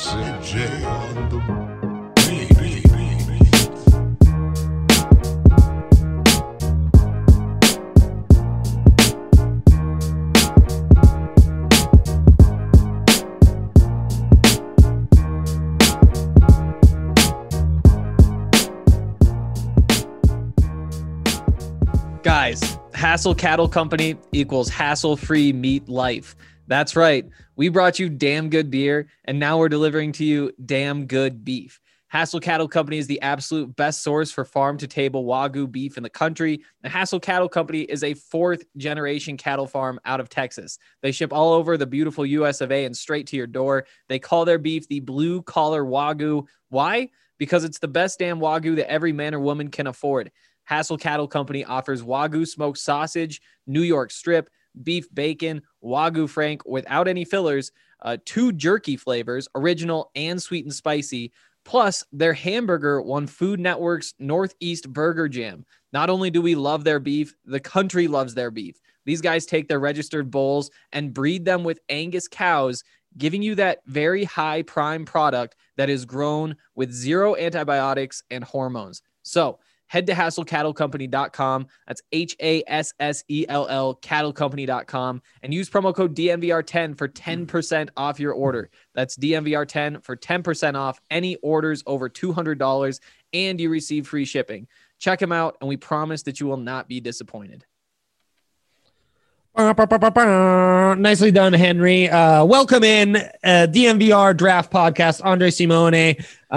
Sid J on the Guys, Hassel Cattle Company equals hassle-free meat life. That's right. We brought you damn good beer, and now we're delivering to you damn good beef. Hassel Cattle Company is the absolute best source for farm-to-table Wagyu beef in the country. The Hassel Cattle Company is a fourth-generation cattle farm out of Texas. They ship all over the beautiful US of A and straight to your door. They call their beef the blue-collar Wagyu. Why? Because it's the best damn Wagyu that every man or woman can afford. Hassel Cattle Company offers Wagyu smoked sausage, New York strip, beef bacon, Wagyu Frank without any fillers, 2 jerky flavors, original and sweet and spicy. Plus, their hamburger won Food Network's Northeast Burger Jam. Not only do we love their beef, the country loves their beef. These guys take their registered bulls and breed them with Angus cows, giving you that very high prime product that is grown with zero antibiotics and hormones. So, head to HassellCattleCompany.com. That's HASSELL cattlecompany.com and use promo code DNVR10 for 10% off your order. That's DNVR10 for 10% off any orders over $200, and you receive free shipping. Check them out, and we promise that you will not be disappointed. Nicely done, Henry. Welcome in DNVR Draft Podcast. Andre Simone,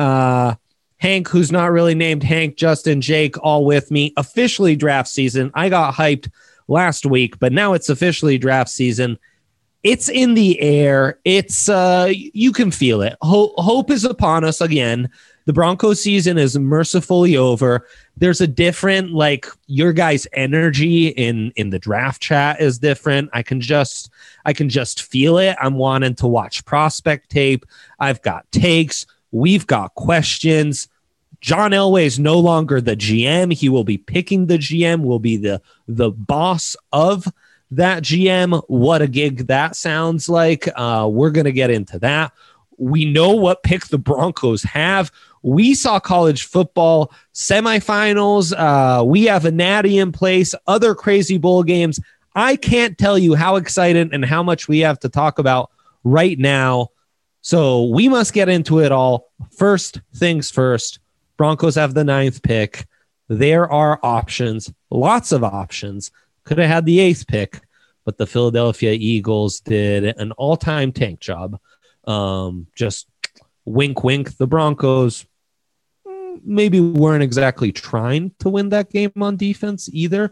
Hank, who's not really named Hank, Justin, Jake, all with me. Officially draft season. I got hyped last week, but now it's officially draft season. It's in the air. It's you can feel it. Hope is upon us again. The Broncos season is mercifully over. There's a different, your guys' energy in the draft chat is different. I can just feel it. I'm wanting to watch prospect tape. I've got takes. We've got questions. John Elway is no longer the GM. He will be picking the GM, will be the boss of that GM. What a gig that sounds like. We're going to get into that. We know what pick the Broncos have. We saw college football semifinals. We have a natty in place, other crazy bowl games. I can't tell you how excited and how much we have to talk about right now. So we must get into it all. First things first, Broncos have the 9th pick. There are options, lots of options. Could have had the 8th pick, but the Philadelphia Eagles did an all-time tank job. Just wink, wink. The Broncos maybe weren't exactly trying to win that game on defense either.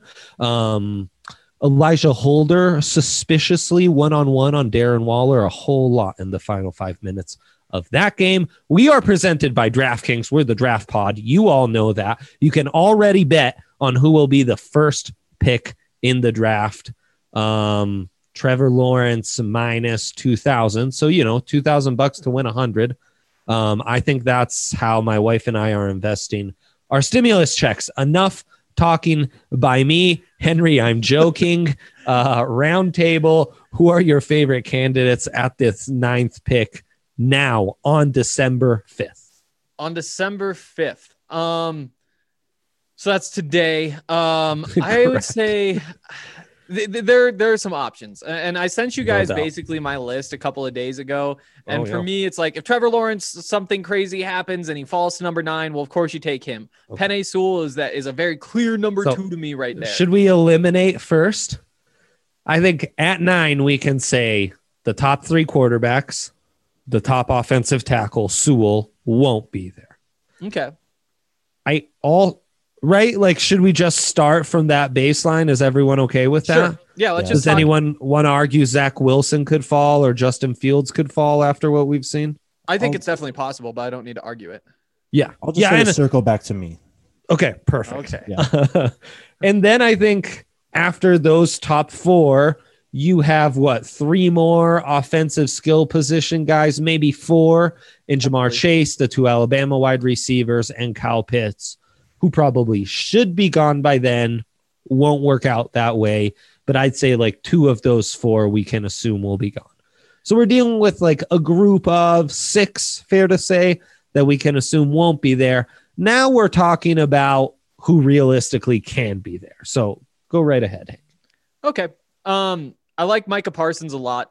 Elijah Holder suspiciously one-on-one on Darren Waller a whole lot in the final 5 minutes of that game. We are presented by DraftKings. We're the Draft Pod. You all know that. You can already bet on who will be the first pick in the draft. Trevor Lawrence minus 2,000. So, $2,000 to win 100. I think that's how my wife and I are investing our stimulus checks. Enough talking by me. Henry, I'm joking. Round table, who are your favorite candidates at this 9th pick now on December 5th? On December 5th. So that's today. I would say there are some options. And I sent you guys basically my list a couple of days ago. And for me, it's like if Trevor Lawrence, something crazy happens and he falls to number 9, well, of course you take him. Okay. Penei Sewell is a very clear number 2 to me right there. Should we eliminate first? I think at 9, we can say the top 3 quarterbacks, the top offensive tackle, Sewell, won't be there. Okay. Right? Should we just start from that baseline? Is everyone okay with that? Sure. Yeah, let's just. Does anyone want to argue Zach Wilson could fall or Justin Fields could fall after what we've seen? I think it's definitely possible, but I don't need to argue it. Yeah. I'll just say circle back to me. Okay, perfect. Okay. Yeah. And then I think after those top 4, you have 3 more offensive skill position guys, maybe 4 in Jamar Chase, the 2 Alabama wide receivers, and Kyle Pitts, who probably should be gone by then. Won't work out that way, but I'd say 2 of those 4 we can assume will be gone. So we're dealing with like a group of 6, fair to say, that we can assume won't be there. Now we're talking about who realistically can be there. So go right ahead, Hank. Okay. I like Micah Parsons a lot.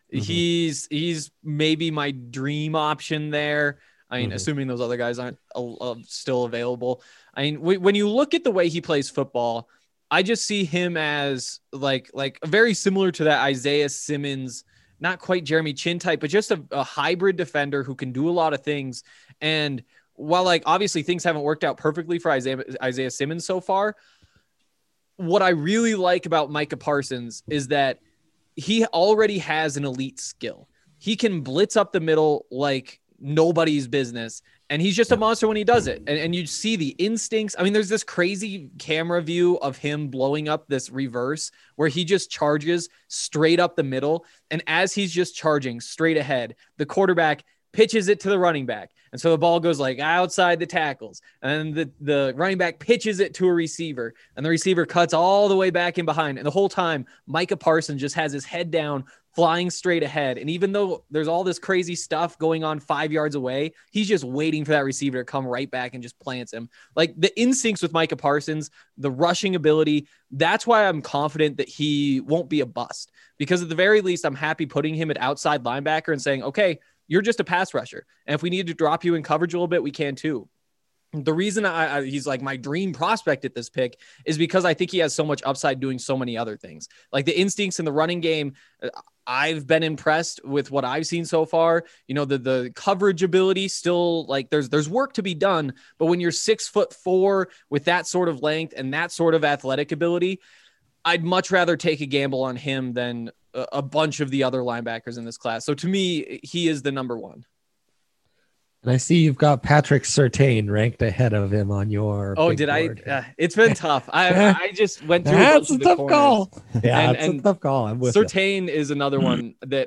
He's maybe my dream option there. I mean, assuming those other guys aren't still available. I mean, when you look at the way he plays football, I just see him as like very similar to that Isaiah Simmons, not quite Jeremy Chin type, but just a hybrid defender who can do a lot of things. And while like obviously things haven't worked out perfectly for Isaiah Simmons so far, what I really like about Micah Parsons is that he already has an elite skill. He can blitz up the middle like nobody's business, and he's just a monster when he does it. And you see the instincts. I mean, there's this crazy camera view of him blowing up this reverse where he just charges straight up the middle. And as he's just charging straight ahead, the quarterback pitches it to the running back. And so the ball goes like outside the tackles, and the running back pitches it to a receiver, and the receiver cuts all the way back in behind. And the whole time, Micah Parsons just has his head down, flying straight ahead. And even though there's all this crazy stuff going on 5 yards away, he's just waiting for that receiver to come right back and just plants him. Like the instincts with Micah Parsons, the rushing ability, that's why I'm confident that he won't be a bust, because at the very least, I'm happy putting him at outside linebacker and saying, okay, you're just a pass rusher. And if we need to drop you in coverage a little bit, we can too. The reason he's like my dream prospect at this pick is because I think he has so much upside doing so many other things. Like the instincts in the running game, I've been impressed with what I've seen so far. You know, the coverage ability still, like there's work to be done, but when you're 6'4" with that sort of length and that sort of athletic ability, I'd much rather take a gamble on him than a bunch of the other linebackers in this class. So to me, he is the number one. And I see you've got Patrick Surtain ranked ahead of him on your. Oh, did board. It's been tough. I just went through. That's a tough call. Yeah, it's a tough call. I'm with Surtain is another one that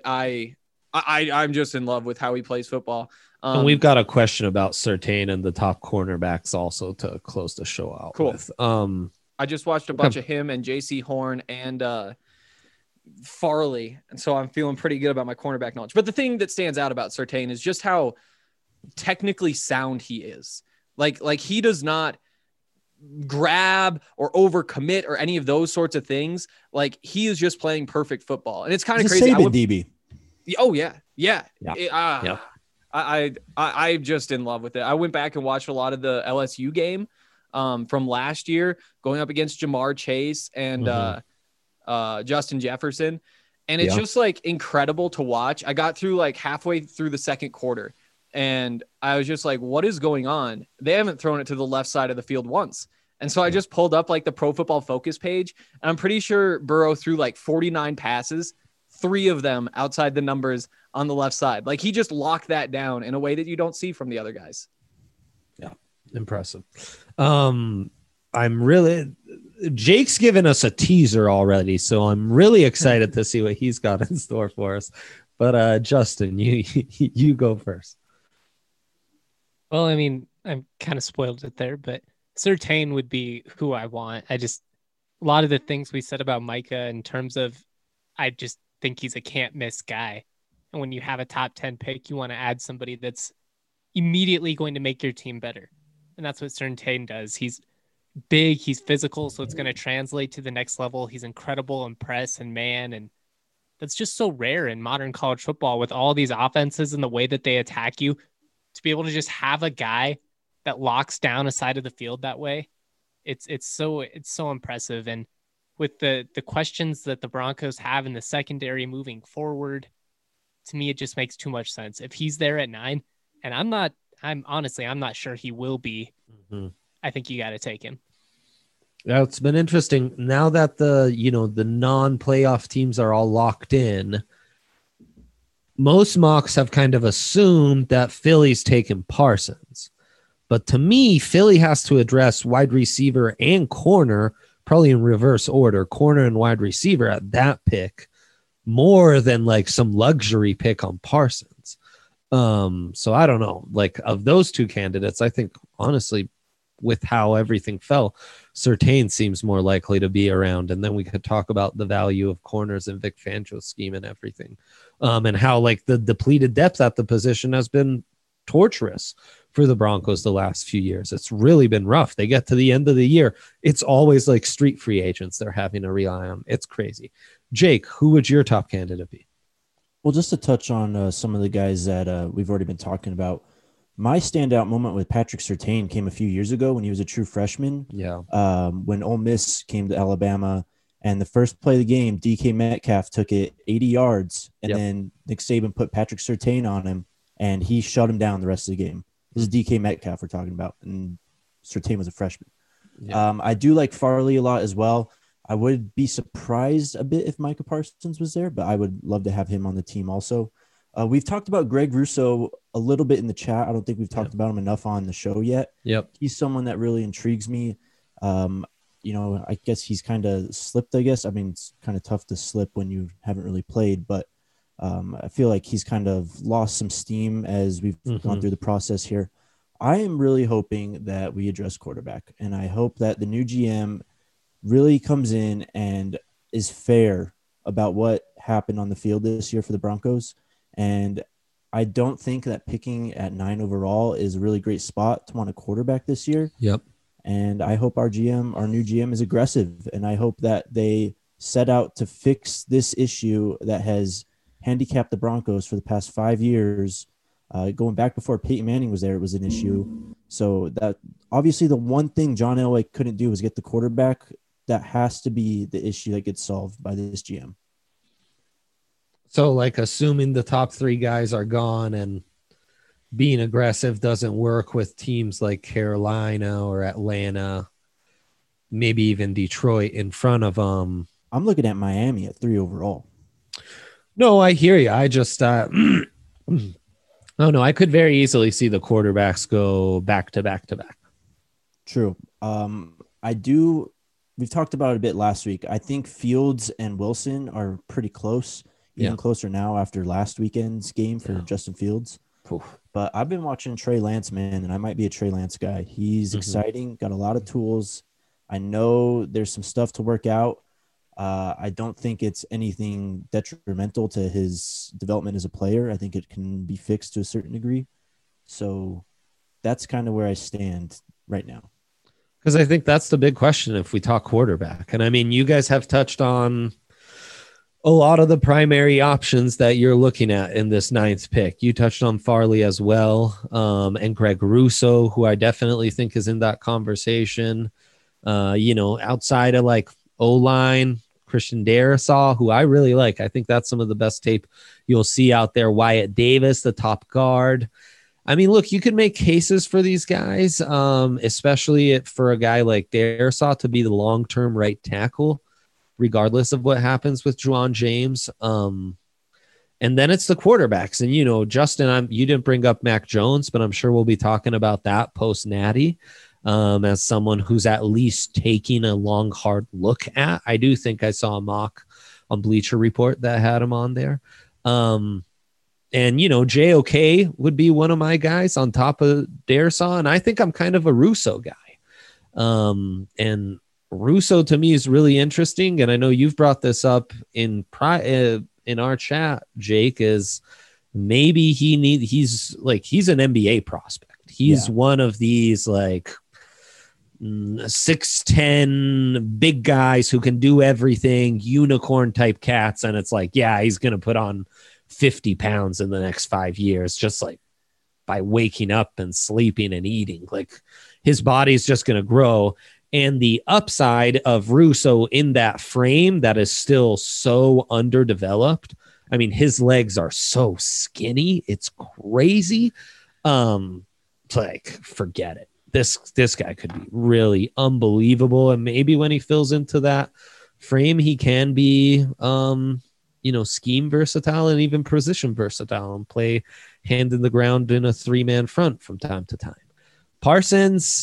I'm just in love with how he plays football. And we've got a question about Surtain and the top cornerbacks also to close the show out. Cool. With. I just watched a bunch of him and JC Horn and Farley, and so I'm feeling pretty good about my cornerback knowledge. But the thing that stands out about Surtain is just how technically sound he is. Like he does not grab or overcommit or any of those sorts of things. Like he is just playing perfect football, and it's kind of crazy. DB. Oh yeah. I'm just in love with it. I went back and watched a lot of the LSU game from last year, going up against Jamar Chase and Justin Jefferson. And it's just like incredible to watch. I got through like halfway through the second quarter and I was just like, what is going on? They haven't thrown it to the left side of the field once. And so I just pulled up like the Pro Football Focus page, and I'm pretty sure Burrow threw like 49 passes, 3 of them outside the numbers on the left side. Like he just locked that down in a way that you don't see from the other guys. Yeah. Impressive. Jake's given us a teaser already, so I'm really excited to see what he's got in store for us. But Justin, you go first. Well, I mean, I'm kind of spoiled it there, but Surtain would be who I want. A lot of the things we said about Micah in terms of, I just think he's a can't miss guy. And when you have a top 10 pick, you want to add somebody that's immediately going to make your team better. And that's what Surtain does. He's big, he's physical, so it's going to translate to the next level. He's incredible in press and man, and that's just so rare in modern college football with all these offenses and the way that they attack you. To be able to just have a guy that locks down a side of the field that way, it's so impressive. And with the questions that the Broncos have in the secondary moving forward, to me, it just makes too much sense. If he's there at 9, and I'm not sure he will be, I think you got to take him. Yeah, it's been interesting now that the non-playoff teams are all locked in. Most mocks have kind of assumed that Philly's taken Parsons, but to me, Philly has to address wide receiver and corner, probably in reverse order, corner and wide receiver at that pick, more than like some luxury pick on Parsons. So I don't know, like of those two candidates, I think honestly, with how everything fell, Surtain seems more likely to be around. And then we could talk about the value of corners in Vic Fangio's scheme and everything. And how like the depleted depth at the position has been torturous for the Broncos the last few years. It's really been rough. They get to the end of the year. It's always like street free agents they're having to rely on. It's crazy. Jake, who would your top candidate be? Well, just to touch on some of the guys that we've already been talking about, my standout moment with Patrick Surtain came a few years ago when he was a true freshman. Yeah. When Ole Miss came to Alabama, and the first play of the game, DK Metcalf took it 80 yards, and then Nick Saban put Patrick Surtain on him, and he shut him down the rest of the game. This is DK Metcalf we're talking about, and Surtain was a freshman. Yeah. I do like Farley a lot as well. I would be surprised a bit if Micah Parsons was there, but I would love to have him on the team also. We've talked about Greg Rousseau a little bit in the chat. I don't think we've talked about him enough on the show yet. Yep. He's someone that really intrigues me. I guess he's kind of slipped, I guess. I mean, it's kind of tough to slip when you haven't really played, but I feel like he's kind of lost some steam as we've gone through the process here. I am really hoping that we address quarterback, and I hope that the new GM really comes in and is fair about what happened on the field this year for the Broncos. And I don't think that picking at 9 overall is a really great spot to want a quarterback this year. Yep. And I hope our new GM is aggressive. And I hope that they set out to fix this issue that has handicapped the Broncos for the past 5 years. Going back before Peyton Manning was there, it was an issue. So that obviously the one thing John Elway couldn't do was get the quarterback. That has to be the issue that gets solved by this GM. So, like, assuming the top 3 guys are gone and being aggressive doesn't work with teams like Carolina or Atlanta, maybe even Detroit in front of them. I'm looking at Miami at 3 overall. No, I hear you. I just, oh no, I could very easily see the quarterbacks go back to back to back. True. We've talked about it a bit last week. I think Fields and Wilson are pretty close. Even closer now after last weekend's game for Justin Fields. Oof. But I've been watching Trey Lance, man, and I might be a Trey Lance guy. He's exciting, got a lot of tools. I know there's some stuff to work out. I don't think it's anything detrimental to his development as a player. I think it can be fixed to a certain degree. So that's kind of where I stand right now. Because I think that's the big question if we talk quarterback. And I mean, you guys have touched on a lot of the primary options that you're looking at in this 9th pick. You touched on Farley as well, and Greg Rousseau, who I definitely think is in that conversation. Outside of like O-line, Christian Darrisaw, who I really like. I think that's some of the best tape you'll see out there. Wyatt Davis, the top guard. I mean, look, you can make cases for these guys, especially for a guy like Darrisaw to be the long-term right tackle, regardless of what happens with Juwan James. And then it's the quarterbacks. And, Justin, you didn't bring up Mac Jones, but I'm sure we'll be talking about that post-Natty as someone who's at least taking a long, hard look at. I do think I saw a mock on Bleacher Report that had him on there. And, JOK would be one of my guys on top of Darrisaw. And I think I'm kind of a Rousseau guy. And Rousseau to me is really interesting, and I know you've brought this up in our chat, Jake, is maybe he's an NBA prospect. He's one of these like 6'10" big guys who can do everything, unicorn type cats, and it's like, he's gonna put on 50 pounds in the next 5 years, just like by waking up and sleeping and eating. Like his body's just gonna grow. And the upside of Rousseau in that frame that is still so underdeveloped. I mean, his legs are so skinny. It's crazy. Forget it. This guy could be really unbelievable. And maybe when he fills into that frame, he can be, scheme versatile and even position versatile and play hand in the ground in a 3-man front from time to time. Parsons,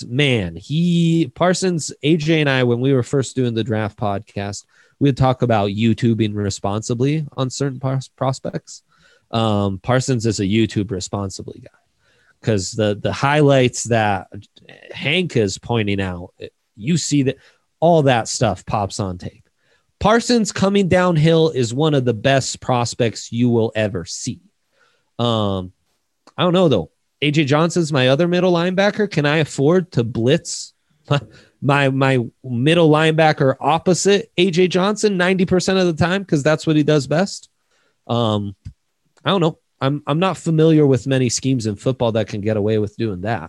AJ and I, when we were first doing the draft podcast, we'd talk about YouTubing responsibly on certain prospects. Parsons is a YouTube responsibly guy because the highlights that Hank is pointing out you see that all that stuff pops on tape. Parsons coming downhill is one of the best prospects you will ever see. I don't know though. AJ Johnson's my other middle linebacker. Can I afford to blitz my middle linebacker opposite AJ Johnson 90% of the time because that's what he does best? I don't know. I'm not familiar with many schemes in football that can get away with doing that.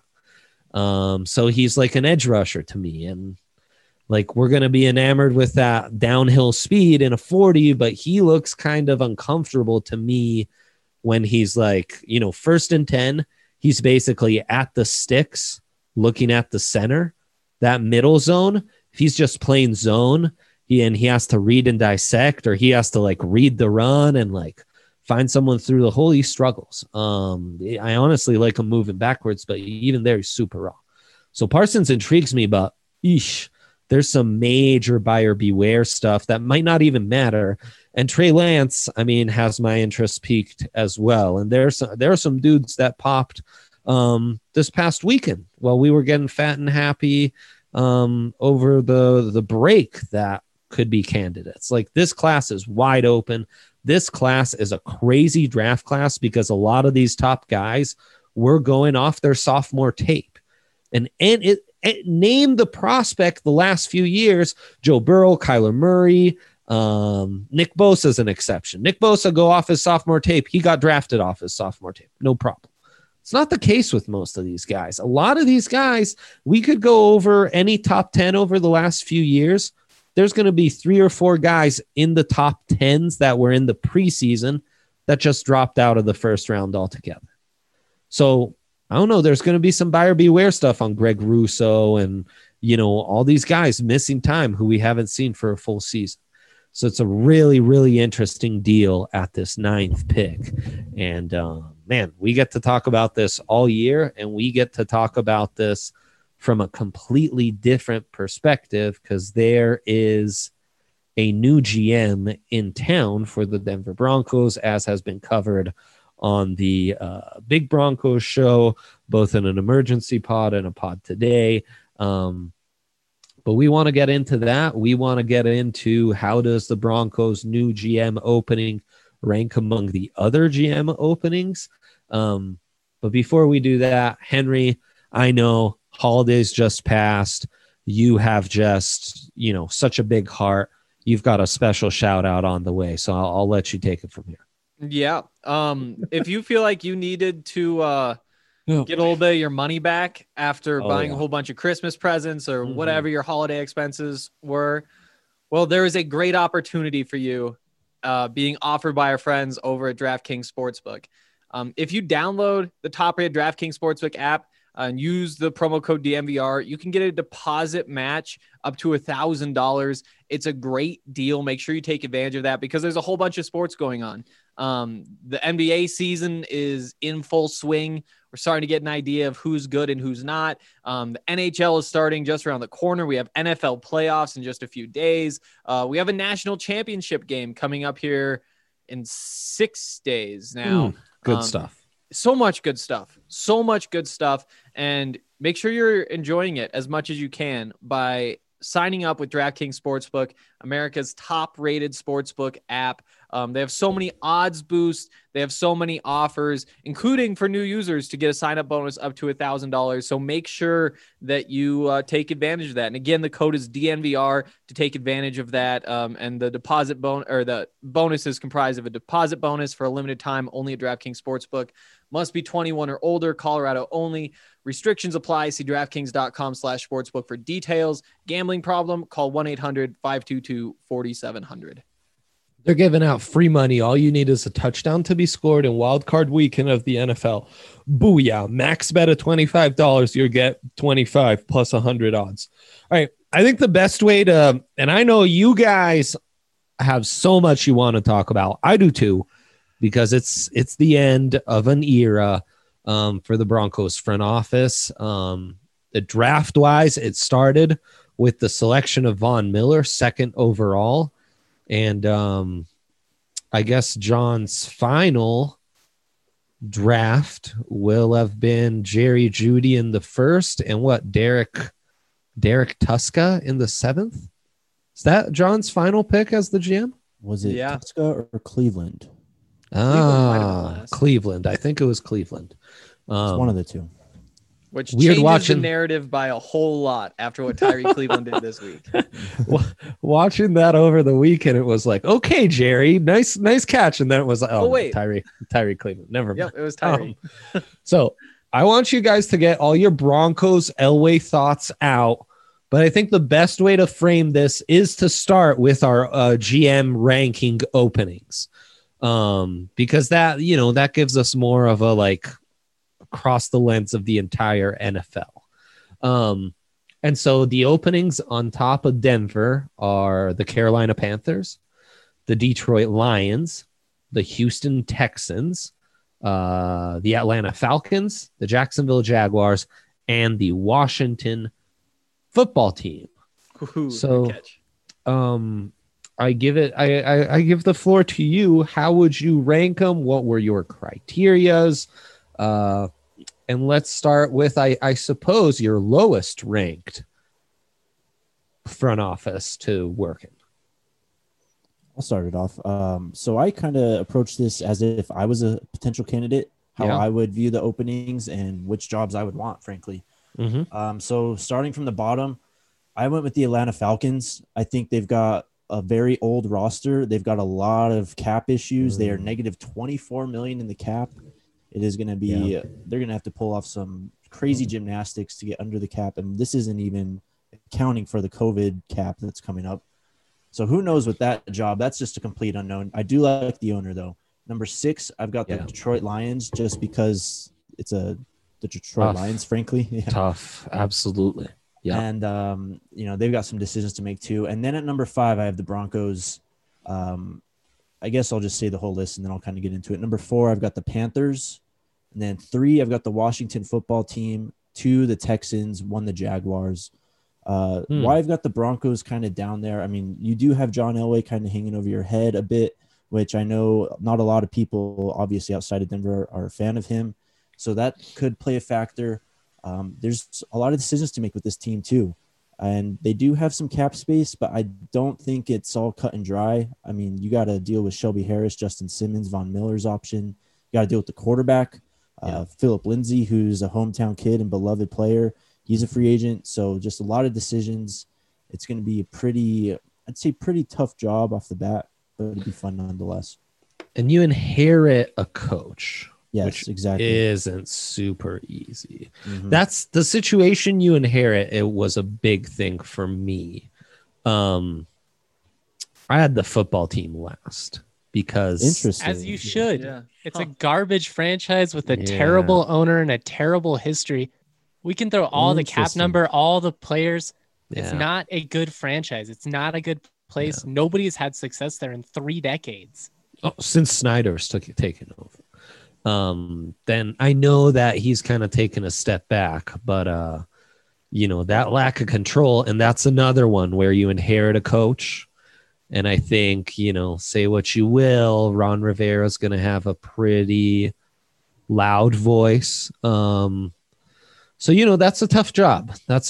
So he's like an edge rusher to me, and like we're gonna be enamored with that downhill speed in a 40, but he looks kind of uncomfortable to me when he's like, you know, 1st and 10. He's basically at the sticks, looking at the center, that middle zone. If he's just playing zone, he has to read and dissect, or he has to like read the run and like find someone through the hole, he struggles. I honestly like him moving backwards, but even there, he's super raw. So Parsons intrigues me, but there's some major buyer beware stuff that might not even matter. And Trey Lance, I mean, has my interest peaked as well. And there are some dudes that popped this past weekend while we were getting fat and happy over the break that could be candidates. Like this class is wide open. This class is a crazy draft class because a lot of these top guys were going off their sophomore tape. And it name the prospect the last few years: Joe Burrow, Kyler Murray, Nick Bosa is an exception. Nick Bosa go off his sophomore tape. He got drafted off his sophomore tape. No problem. It's not the case with most of these guys. A lot of these guys, we could go over any top 10 over the last few years. There's going to be 3 or 4 guys in the top 10s that were in the preseason that just dropped out of the first round altogether. So I don't know. There's going to be some buyer beware stuff on Greg Russo and, you know, all these guys missing time who we haven't seen for a full season. So it's a really, really interesting deal at this 9th pick. And man, we get to talk about this all year, and we get to talk about this from a completely different perspective because there is a new GM in town for the Denver Broncos, as has been covered on the Big Broncos show, both in an emergency pod and a pod today. But we want to get into that. We want to get into how does the Broncos' new GM opening rank among the other GM openings. But before we do that, Henry, I know holidays just passed. You have just, you know, such a big heart. You've got a special shout out on the way. So I'll let you take it from here. Yeah. If you feel like you needed to get a little bit of your money back after buying a whole bunch of Christmas presents or whatever your holiday expenses were, well, there is a great opportunity for you being offered by our friends over at DraftKings Sportsbook. If you download the top-rated DraftKings Sportsbook app and use the promo code DMVR, you can get a deposit match up to $1,000. It's a great deal. Make sure you take advantage of that because there's a whole bunch of sports going on. The NBA season is in full swing. We're starting to get an idea of who's good and who's not. The NHL is starting just around the corner. We have NFL playoffs in just a few days. We have a national championship game coming up here in 6 days now. Good stuff. So much good stuff. So much good stuff. And make sure you're enjoying it as much as you can by signing up with DraftKings Sportsbook, America's top-rated sportsbook app. They have so many odds boosts. They have so many offers, including for new users to get a sign-up bonus up to $1,000. So make sure that you take advantage of that. And again, the code is DNVR to take advantage of that. And the deposit the bonus is comprised of a deposit bonus for a limited time only at DraftKings Sportsbook. Must be 21 or older, Colorado only. Restrictions apply. See DraftKings.com/sportsbook for details. Gambling problem? Call 1-800-522-4700. They're giving out free money. All you need is a touchdown to be scored in Wild Card Weekend of the NFL. Booyah. Max bet of $25. You'll get 25 plus 100 odds. All right. I think the best way to, and I know you guys have so much you want to talk about. I do too, because it's the end of an era for the Broncos front office. The draft wise, it started with the selection of Von Miller, 2nd overall. And I guess John's final draft will have been Jerry Jeudy in the 1st, and Derek Derek Tuska in the 7th. Is that John's final pick as the GM? Was it Yeah. Tuska or Cleveland? Cleveland might have been last. Cleveland. I think it was Cleveland. It's one of the two. Which Weird changes watching- the narrative by a whole lot after what Tyree Cleveland did this week. Watching that over the weekend, it was like, okay, Jerry, nice catch. And then it was like, oh, wait. Tyree Cleveland. Never mind. Yep, it was Tyree. So I want you guys to get all your Broncos Elway thoughts out. But I think the best way to frame this is to start with our GM ranking openings. Because that gives us more of a like across the lens of the entire NFL. And so the openings on top of Denver are the Carolina Panthers, the Detroit Lions, the Houston Texans, the Atlanta Falcons, the Jacksonville Jaguars, and the Washington football team. Ooh, So- good catch. I give the floor to you. How would you rank them? What were your criterias? And let's start with, I suppose, your lowest ranked front office to work in. I'll start it off. So I kind of approached this as if I was a potential candidate, how Yeah. I would view the openings and which jobs I would want, frankly. So starting from the bottom, I went with the Atlanta Falcons. I think they've got a very old roster. They've got a lot of cap issues. They are negative 24 million in the cap. It is going to be, they're going to have to pull off some crazy gymnastics to get under the cap. And this isn't even accounting for the COVID cap that's coming up. So who knows with that job? That's just a complete unknown. I do like the owner though. Number 6, I've got the Detroit Lions just because it's the Detroit Tough. Lions, frankly. Yeah. Tough. Absolutely. Yeah. And, they've got some decisions to make too. And then at number 5, I have the Broncos. I guess I'll just say the whole list and then I'll kind of get into it. Number 4, I've got the Panthers. And then 3, I've got the Washington football team. 2, the Texans. 1, the Jaguars. Why I've got the Broncos kind of down there. I mean, you do have John Elway kind of hanging over your head a bit, which I know not a lot of people, obviously outside of Denver, are a fan of him. So that could play a factor. There's a lot of decisions to make with this team too. And they do have some cap space, but I don't think it's all cut and dry. I mean, you got to deal with Shelby Harris, Justin Simmons, Von Miller's option. You got to deal with the quarterback, Philip Lindsay, who's a hometown kid and beloved player. He's a free agent. So just a lot of decisions. It's going to be a pretty tough job off the bat, but it'll be fun nonetheless. And you inherit a coach. Yes, which exactly. isn't super easy. Mhm. That's the situation you inherit. It was a big thing for me. I had the football team last because Interesting. As you should. Yeah. It's a garbage franchise with a Yeah. terrible owner and a terrible history. We can throw all the cap Interesting. number, all the players. It's Yeah. not a good franchise. It's not a good place. Nobody's had success there in 3 decades. since Snyder's taken over. Then I know that he's kind of taken a step back, but that lack of control, and that's another one where you inherit a coach. And I think, say what you will, Ron Rivera is going to have a pretty loud voice. So, that's a tough job. It's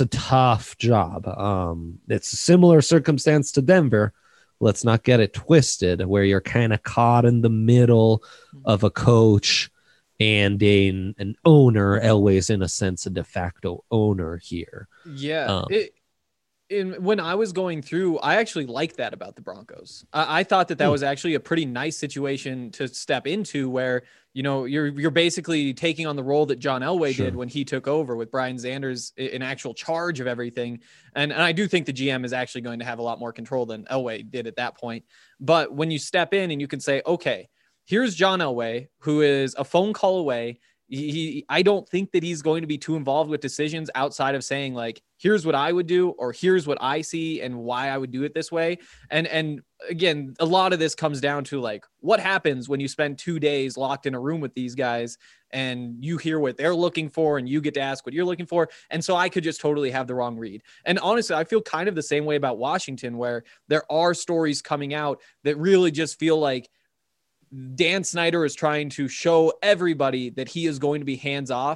a similar circumstance to Denver. Let's not get it twisted, where you're kind of caught in the middle of a coach and an owner. Elway's, in a sense, a de facto owner here. Yeah. When I was going through, I actually liked that about the Broncos. I thought that was actually a pretty nice situation to step into, where you're basically taking on the role that John Elway did when he took over, with Brian Sanders in actual charge of everything. And I do think the GM is actually going to have a lot more control than Elway did at that point. But when you step in and you can say, okay, here's John Elway, who is a phone call away. I don't think that he's going to be too involved with decisions outside of saying, like, here's what I would do, or here's what I see and why I would do it this way. And again, a lot of this comes down to, like, what happens when you spend 2 days locked in a room with these guys and you hear what they're looking for and you get to ask what you're looking for. And so I could just totally have the wrong read. And honestly, I feel kind of the same way about Washington, where there are stories coming out that really just feel like Dan Snyder is trying to show everybody that he is going to be hands off.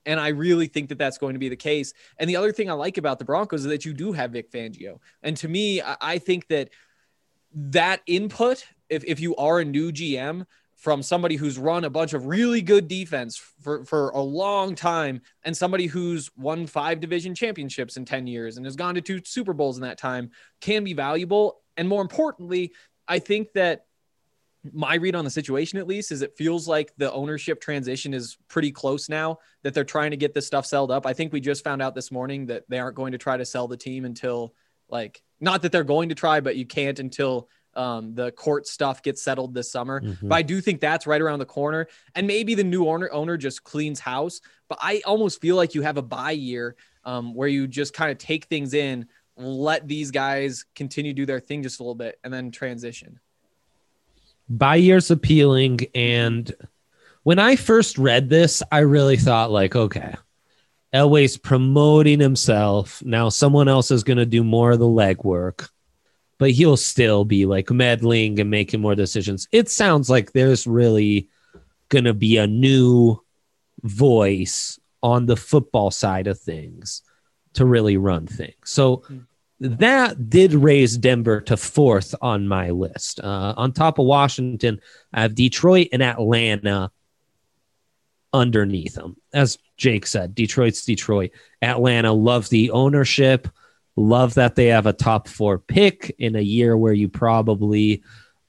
And I really think that that's going to be the case. And the other thing I like about the Broncos is that you do have Vic Fangio. And to me, I think that input, if you are a new GM from somebody who's run a bunch of really good defense for a long time and somebody who's won 5 division championships in 10 years and has gone to 2 Super Bowls in that time, can be valuable. And more importantly, I think that my read on the situation, at least, is it feels like the ownership transition is pretty close now, that they're trying to get this stuff sold up. I think we just found out this morning that they aren't going to try to sell the team until, like, not that they're going to try, but you can't until the court stuff gets settled this summer. But I do think that's right around the corner. And maybe the new owner just cleans house. But I almost feel like you have a bye year where you just kind of take things in, let these guys continue to do their thing just a little bit, and then transition. Bye year's appealing. And when I first read this, I really thought, like, okay, Elway's promoting himself. Now someone else is going to do more of the legwork, but he'll still be like meddling and making more decisions. It sounds like there's really going to be a new voice on the football side of things to really run things. So that did raise Denver to 4th on my list. On top of Washington, I have Detroit and Atlanta underneath them. As Jake said, Detroit's Detroit. Atlanta, love the ownership. Love that they have a top 4 pick in a year where you probably,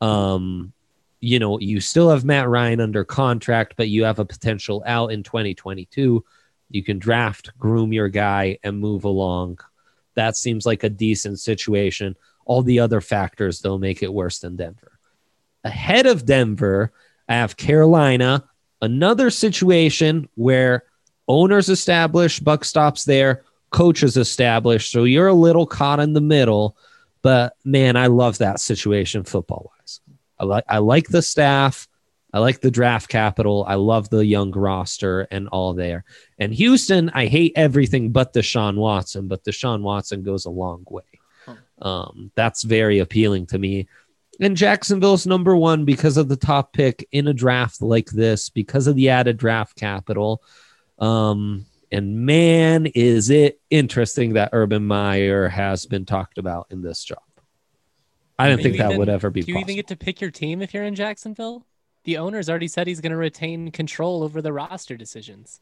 you still have Matt Ryan under contract, but you have a potential out in 2022. You can draft, groom your guy, and move along. That seems like a decent situation. All the other factors, though, make it worse than Denver. Ahead of Denver, I have Carolina, another situation where owners established, buck stops there, coaches established, so you're a little caught in the middle. But, man, I love that situation football-wise. I like the staff. I like the draft capital. I love the young roster and all there. And Houston, I hate everything but Deshaun Watson, but Deshaun Watson goes a long way. That's very appealing to me. And Jacksonville's number 1 because of the top pick in a draft like this, because of the added draft capital. And man, is it interesting that Urban Meyer has been talked about in this job. I didn't think that would ever be possible. Do you even get to pick your team if you're in Jacksonville? The owner's already said he's going to retain control over the roster decisions.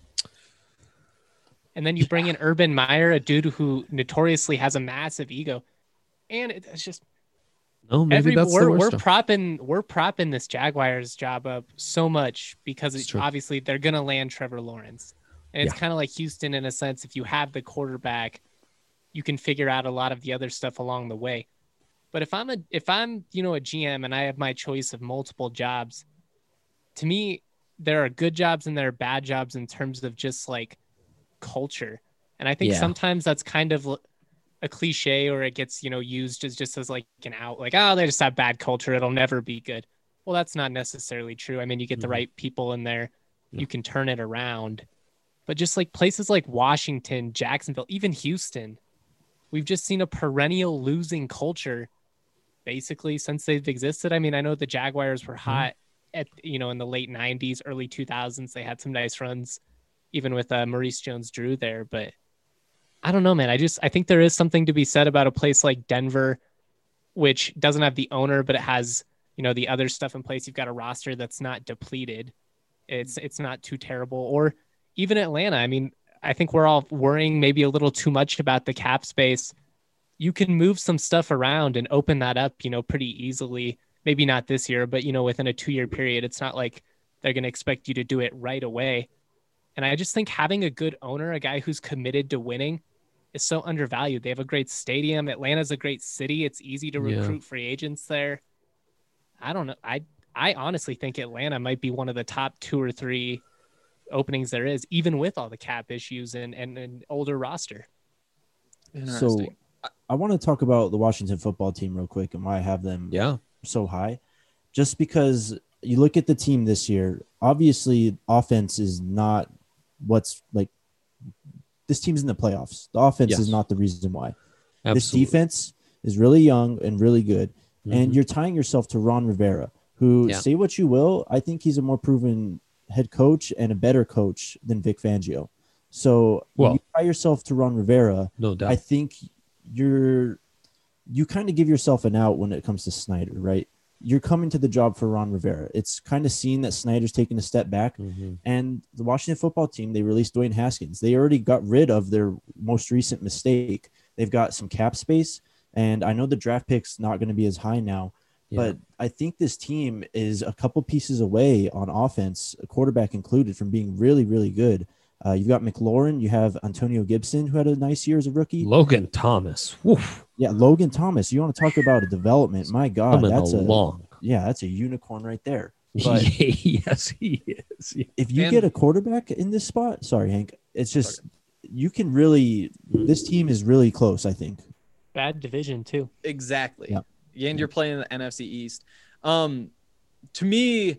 And then you bring in Urban Meyer, a dude who notoriously has a massive ego. And it's just... No, maybe that's the worst. We're propping this Jaguars job up so much because obviously they're going to land Trevor Lawrence. And it's kind of like Houston in a sense. If you have the quarterback, you can figure out a lot of the other stuff along the way. But if I'm a GM and I have my choice of multiple jobs, to me, there are good jobs and there are bad jobs in terms of just like culture. And I think sometimes that's kind of a cliche, or it gets, used as just as like an out, like, oh, they just have bad culture. It'll never be good. Well, that's not necessarily true. I mean, you get the right people in there, you can turn it around. But just like places like Washington, Jacksonville, even Houston, we've just seen a perennial losing culture basically since they've existed. I mean, I know the Jaguars were hot at, in the late 90s, early 2000s. They had some nice runs, even with Maurice Jones-Drew there. But I don't know, man. I think there is something to be said about a place like Denver, which doesn't have the owner, but it has, the other stuff in place. You've got a roster that's not depleted. It's not too terrible. Or even Atlanta. I mean, I think we're all worrying maybe a little too much about the cap space. You can move some stuff around and open that up, pretty easily. Maybe not this year, but, within a 2-year period. It's not like they're going to expect you to do it right away. And I just think having a good owner, a guy who's committed to winning, is so undervalued. They have a great stadium. Atlanta's a great city. It's easy to recruit free agents there. I don't know. I honestly think Atlanta might be one of the top 2 or 3 openings there is, even with all the cap issues and an older roster. So I want to talk about the Washington football team real quick and why I have them so high. Just because you look at the team this year, obviously offense is not what's like this team's in the playoffs. The offense is not the reason why. Absolutely. This defense is really young and really good. And you're tying yourself to Ron Rivera, who say what you will, I think he's a more proven head coach and a better coach than Vic Fangio. So when Well, you tie yourself to Ron Rivera, no doubt. I think you kind of give yourself an out when it comes to Snyder, right? You're coming to the job for Ron Rivera. It's kind of seen that Snyder's taking a step back. And the Washington football team, they released Dwayne Haskins. They already got rid of their most recent mistake. They've got some cap space, and I know the draft pick's not going to be as high now, but I think this team is a couple pieces away on offense, a quarterback included, from being really, really good. You've got McLaurin. You have Antonio Gibson, who had a nice year as a rookie. Logan Thomas. Woof. Yeah, Logan Thomas. You want to talk about a development? My God, Coming that's along. that's a unicorn right there. But Yes, he is. if you get a quarterback in this spot, sorry, Hank, it's just you can really. This team is really close, I think. Bad division too. Exactly. Yep. And you're playing the NFC East. To me,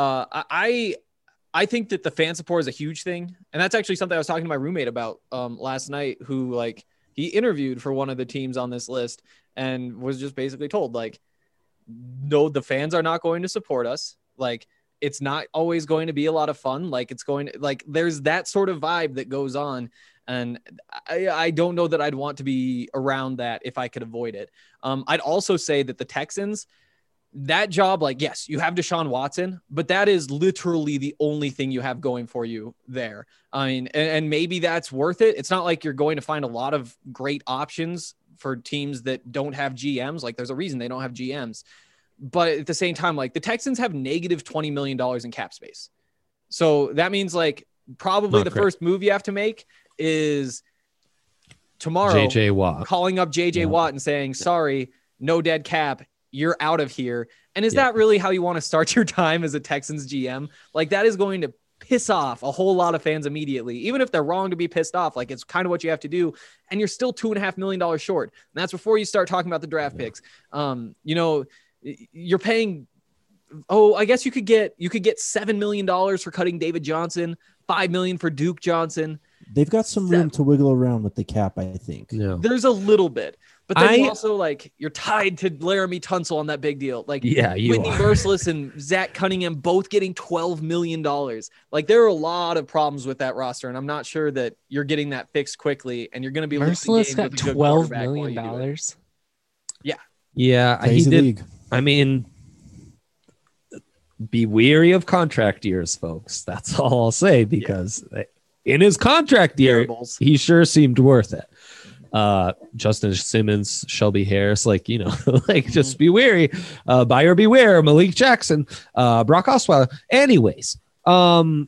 I think that the fan support is a huge thing. And that's actually something I was talking to my roommate about last night, who like he interviewed for one of the teams on this list and was just basically told like, no, the fans are not going to support us. Like, it's not always going to be a lot of fun. Like, it's going to, like, there's that sort of vibe that goes on. And I don't know that I'd want to be around that if I could avoid it. I'd also say that the Texans, that job, like, yes, you have Deshaun Watson, but that is literally the only thing you have going for you there. I mean, and maybe that's worth it. It's not like you're going to find a lot of great options for teams that don't have GMs. Like, there's a reason they don't have GMs. But at the same time, like, the Texans have negative $20 million in cap space. So that means, like, probably first move you have to make is tomorrow JJ Watt. calling up JJ Watt and saying, sorry, no dead cap, you're out of here. And is that really how you want to start your time as a Texans GM? Like, that is going to piss off a whole lot of fans immediately, even if they're wrong to be pissed off. Like, it's kind of what you have to do. And you're still $2.5 million short. And that's before you start talking about the draft picks. You know, you're paying, I guess you could get $7 million for cutting David Johnson, $5 million for Duke Johnson. They've got some room to wiggle around with the cap, I think. Yeah. There's a little bit, but then you also, like, you're tied to Laramie Tunsil on that big deal. Like, Whitney Merciless and Zach Cunningham both getting $12 million. Like, there are a lot of problems with that roster, and I'm not sure that you're getting that fixed quickly, and you're going to be Merciless got $12 million. Yeah. Yeah. Crazy he did. league. I mean, be weary of contract years, folks. That's all I'll say, because in his contract year, he sure seemed worth it. Justin Simmons, Shelby Harris, like, you know, like, just be wary. Buyer beware. Malik Jackson, Brock Osweiler. Anyways, so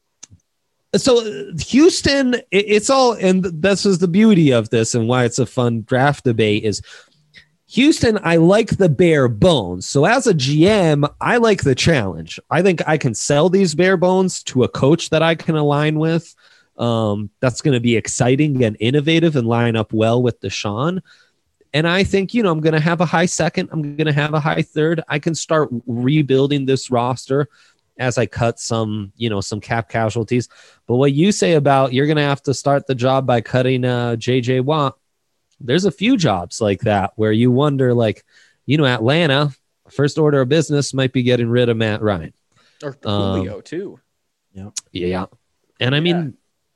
Houston, it's all, and this is the beauty of this and why it's a fun draft debate, is Houston, I like the bare bones. So as a GM, I like the challenge. I think I can sell these bare bones to a coach that I can align with. That's going to be exciting and innovative and line up well with Deshaun. And I think, you know, I'm going to have a high second. I'm going to have a high third. I can start rebuilding this roster as I cut some, you know, some cap casualties. But what you say about you're going to have to start the job by cutting JJ Watt, there's a few jobs like that where you wonder, like, you know, Atlanta, first order of business might be getting rid of Matt Ryan. Or Julio, too. Yeah. And I mean,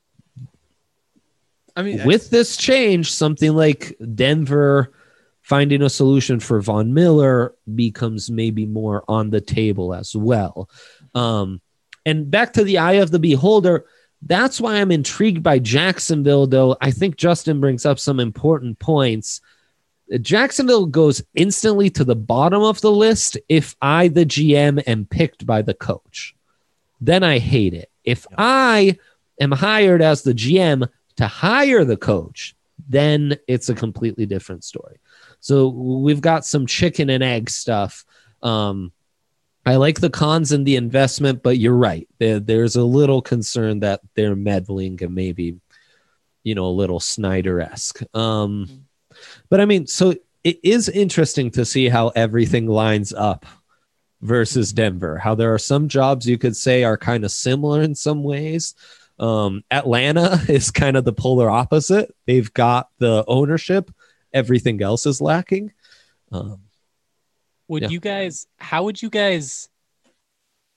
with this change, something like Denver finding a solution for Von Miller becomes maybe more on the table as well. And back to the eye of the beholder, that's why I'm intrigued by Jacksonville, though. I think Justin brings up some important points. Jacksonville goes instantly to the bottom of the list if I, the GM, am picked by the coach. Then I hate it. If I am hired as the GM to hire the coach, then it's a completely different story. So we've got some chicken and egg stuff. I like the cons and the investment, but you're right. There's a little concern that they're meddling and maybe, you know, a little Snyder-esque. But I mean, so it is interesting to see how everything lines up versus Denver, how there are some jobs you could say are kind of similar in some ways. Atlanta is kind of the polar opposite. They've got the ownership. Everything else is lacking. How would you guys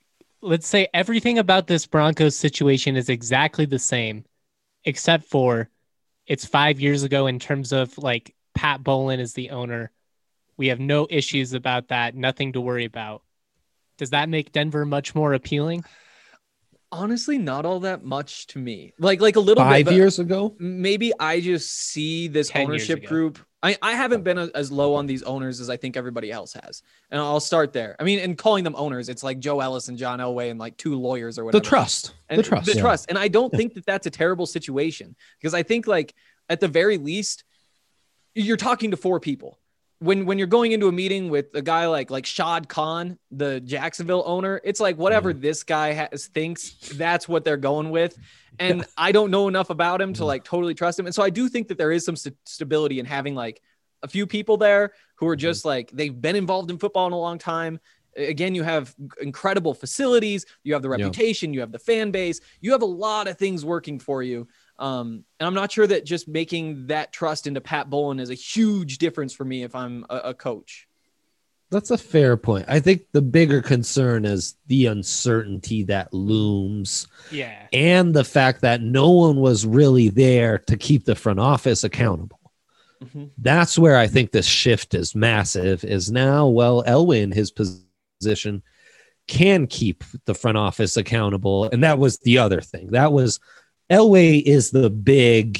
let's say everything about this Broncos situation is exactly the same, except for it's 5 years ago in terms of like Pat Bowlen is the owner. We have no issues about that. Nothing to worry about. Does that make Denver much more appealing? Honestly, not all that much to me. Like a little bit. 5 but years ago? maybe I just see this 10 years ownership ago. group. I haven't been as low on these owners as I think everybody else has. And I'll start there. I mean, and calling them owners, it's like Joe Ellis and John Elway and like 2 lawyers or whatever. The trust. And The trust. The trust. And I don't think that that's a terrible situation, because I think like at the very least, you're talking to 4 people. When you're going into a meeting with a guy like Shad Khan, the Jacksonville owner, it's like whatever this guy thinks, that's what they're going with. And I don't know enough about him to like totally trust him. And so I do think that there is some stability in having like a few people there who are just like, they've been involved in football in a long time. Again, you have incredible facilities, you have the reputation, you have the fan base, you have a lot of things working for you. And I'm not sure that just making that trust into Pat Bowlen is a huge difference for me if I'm a coach. That's a fair point. I think the bigger concern is the uncertainty that looms. Yeah. And the fact that no one was really there to keep the front office accountable. Mm-hmm. That's where I think this shift is massive, is now, well, Elway in his position can keep the front office accountable. And that was the other thing. That was Elway is the big,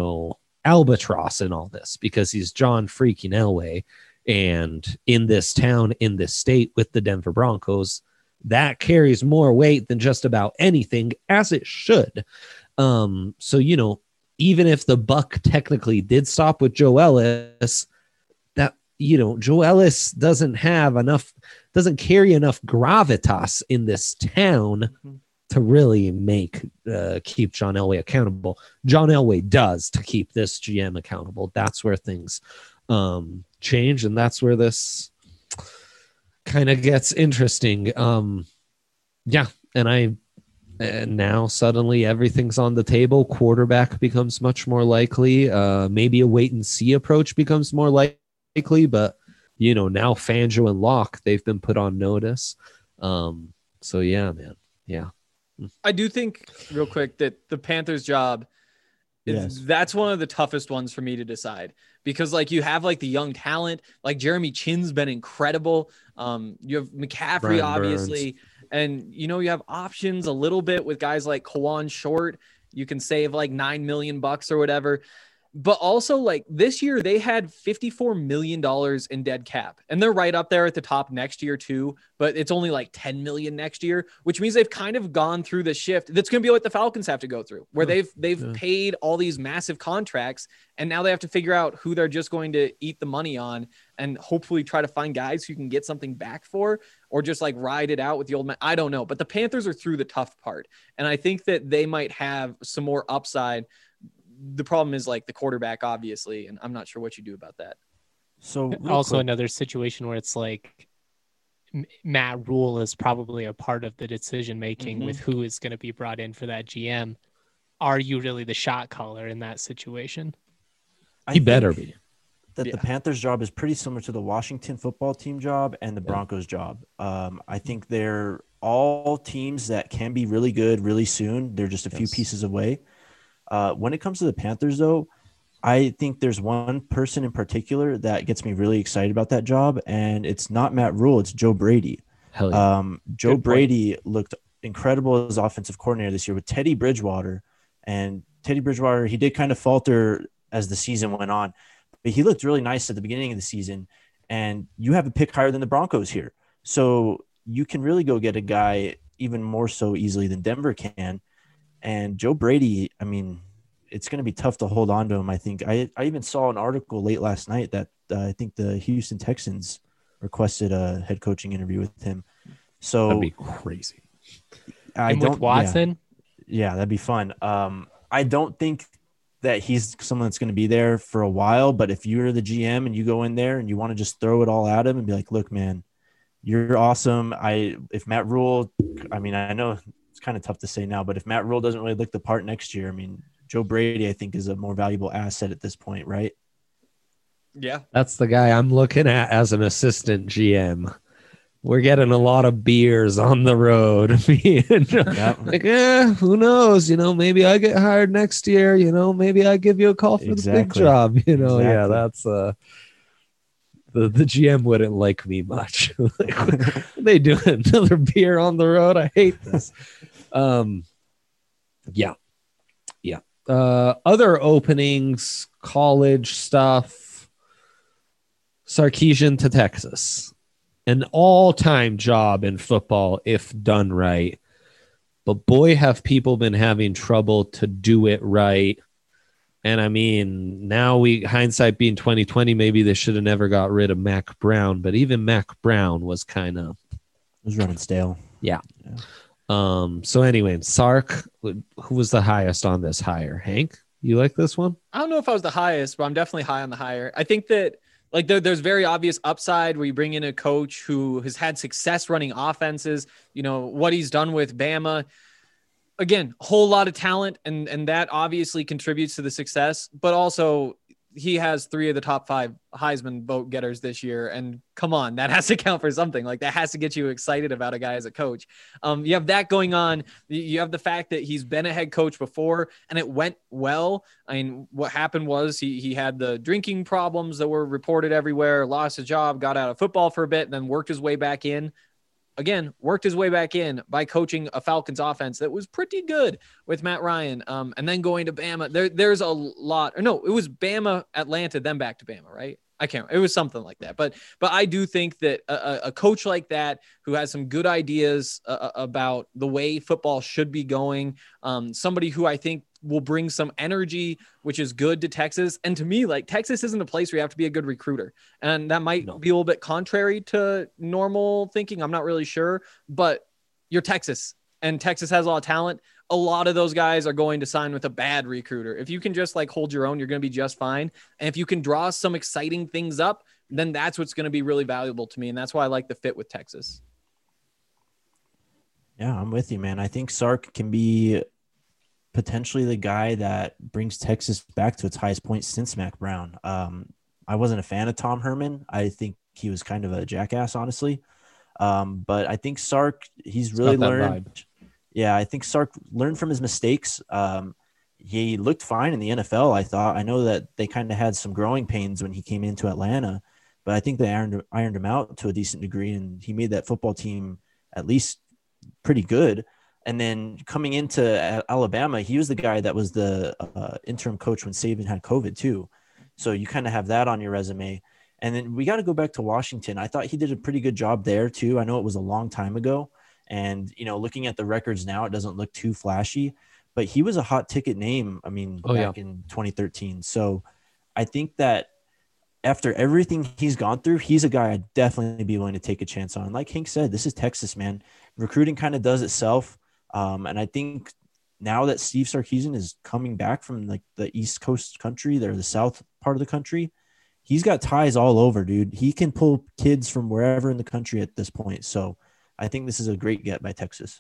albatross in all this, because he's John freaking Elway. And in this town, in this state with the Denver Broncos, that carries more weight than just about anything, as it should. So, even if the buck technically did stop with Joe Ellis, that, Joe Ellis doesn't carry enough gravitas in this town to really keep John Elway accountable. John Elway does to keep this GM accountable. That's where things change, and that's where this kind of gets interesting. And now suddenly everything's on the table. Quarterback becomes much more likely. Maybe a wait and see approach becomes more likely, but now Fangio and Locke, they've been put on notice. So yeah, man. Yeah. I do think real quick that the Panthers job that's one of the toughest ones for me to decide, because like you have like the young talent, like Jeremy Chin's been incredible. You have McCaffrey, Brian obviously, Burns. and you have options a little bit with guys like Kawan Short. You can save like $9 million or whatever. But also, like this year, they had $54 million in dead cap, and they're right up there at the top next year too. But it's only like $10 million next year, which means they've kind of gone through the shift. That's going to be what the Falcons have to go through, where they've paid all these massive contracts, and now they have to figure out who they're just going to eat the money on, and hopefully try to find guys who can get something back for, or just like ride it out with the old man. I don't know, but the Panthers are through the tough part, and I think that they might have some more upside. The problem is like the quarterback, obviously, and I'm not sure what you do about that. So also another situation where it's like Matt Rule is probably a part of the decision making with who is going to be brought in for that GM. Are you really the shot caller in that situation? He better be. That the Panthers job is pretty similar to the Washington football team job and the Broncos job. I think they're all teams that can be really good really soon. They're just a few pieces away. When it comes to the Panthers, though, I think there's one person in particular that gets me really excited about that job, and it's not Matt Rule, it's Joe Brady. Hell yeah. Joe Brady looked incredible as offensive coordinator this year with Teddy Bridgewater. And Teddy Bridgewater, he did kind of falter as the season went on, but he looked really nice at the beginning of the season. And you have a pick higher than the Broncos here. So you can really go get a guy even more so easily than Denver can. And Joe Brady, I mean, it's going to be tough to hold on to him. I think I even saw an article late last night that I think the Houston Texans requested a head coaching interview with him. So that'd be crazy. With Watson? Yeah, that'd be fun. I don't think that he's someone that's going to be there for a while, but if you're the GM and you go in there and you want to just throw it all at him and be like, look, man, you're awesome. If Matt Rule, I mean, I know it's kind of tough to say now, but if Matt Rule doesn't really look the part next year, I mean, Joe Brady, I think, is a more valuable asset at this point, right? Yeah. That's the guy I'm looking at as an assistant GM. we're getting a lot of beers on the road. Like, who knows? Maybe I get hired next year. Maybe I give you a call for the big job. Yeah, that's the GM wouldn't like me much. Like, they do another beer on the road. I hate this. Yeah. Other openings, college stuff. Sarkisian to Texas. An all-time job in football if done right. But boy, have people been having trouble to do it right. And I mean, now hindsight being 2020, maybe they should have never got rid of Mac Brown. But even Mac Brown was kind of... It was running stale. Yeah. So anyway, Sark, who was the highest on this hire? Hank, you like this one? I don't know if I was the highest, but I'm definitely high on the hire. I think that like there's very obvious upside where you bring in a coach who has had success running offenses, what he's done with Bama. Again, a whole lot of talent, and that obviously contributes to the success, but also he has 3 of the top 5 Heisman vote getters this year. And come on, that has to count for something. Like that has to get you excited about a guy as a coach. You have that going on. You have the fact that he's been a head coach before and it went well. I mean, what happened was he had the drinking problems that were reported everywhere, lost his job, got out of football for a bit, and then worked his way back in. Again, worked his way back in by coaching a Falcons offense that was pretty good with Matt Ryan. And then going to Bama. There's a lot. Or no, it was Bama, Atlanta, then back to Bama, right? I can't. It was something like that. But I do think that a coach like that who has some good ideas about the way football should be going, somebody who I think will bring some energy, which is good to Texas. And to me, like Texas isn't a place where you have to be a good recruiter. And that might be a little bit contrary to normal thinking. I'm not really sure, but you're Texas and Texas has a lot of talent. A lot of those guys are going to sign with a bad recruiter. If you can just like hold your own, you're going to be just fine. And if you can draw some exciting things up, then that's what's going to be really valuable to me. And that's why I like the fit with Texas. Yeah, I'm with you, man. I think Sark can be potentially the guy that brings Texas back to its highest point since Mac Brown. I wasn't a fan of Tom Herman. I think he was kind of a jackass, honestly. But I think Sark, he's really learned. Yeah, I think Sark learned from his mistakes. He looked fine in the NFL, I thought. I know that they kind of had some growing pains when he came into Atlanta, but I think they ironed him out to a decent degree, and he made that football team at least pretty good. And then coming into Alabama, he was the guy that was the interim coach when Saban had COVID too. So you kind of have that on your resume. And then we got to go back to Washington. I thought he did a pretty good job there too. I know it was a long time ago. And, looking at the records now, it doesn't look too flashy, but he was a hot ticket name. I mean, back in 2013. So I think that after everything he's gone through, he's a guy I'd definitely be willing to take a chance on. Like Hank said, this is Texas, man. Recruiting kind of does itself. And I think now that Steve Sarkisian is coming back from like the East Coast country, the south part of the country, he's got ties all over, dude. He can pull kids from wherever in the country at this point. So I think this is a great get by Texas.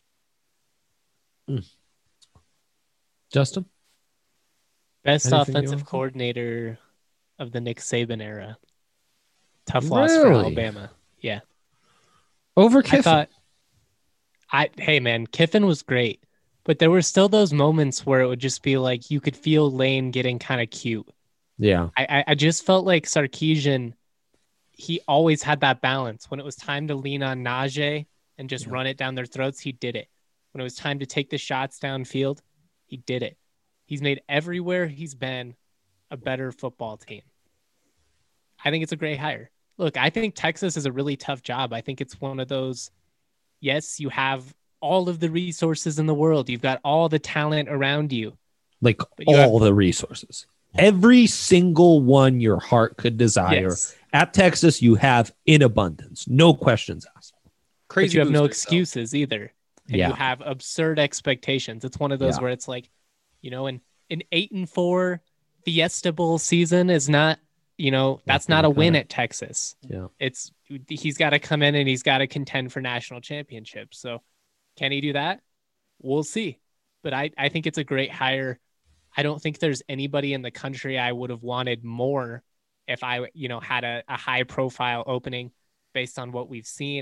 Justin? Best Anything offensive coordinator of the Nick Saban era. Tough loss for Alabama. Yeah. Over Kiffin. Hey man, Kiffin was great, but there were still those moments where it would just be like you could feel Lane getting kind of cute. Yeah. I just felt like Sarkisian, he always had that balance. When it was time to lean on Najee and just run it down their throats, he did it. When it was time to take the shots downfield, he did it. He's made everywhere he's been a better football team. I think it's a great hire. Look, I think Texas is a really tough job. I think it's one of those, yes, you have all of the resources in the world. You've got all the talent around you. Like all the resources. Every single one your heart could desire. Yes. At Texas, you have in abundance. No questions asked. Crazy. But you have no excuses either. And you have absurd expectations. It's one of those where it's like, an 8-4 Fiesta Bowl season is not, that's not a win at Texas. Yeah. He's got to come in and he's got to contend for national championships. So can he do that? We'll see. But I think it's a great hire. I don't think there's anybody in the country I would have wanted more if I, had a high profile opening based on what we've seen.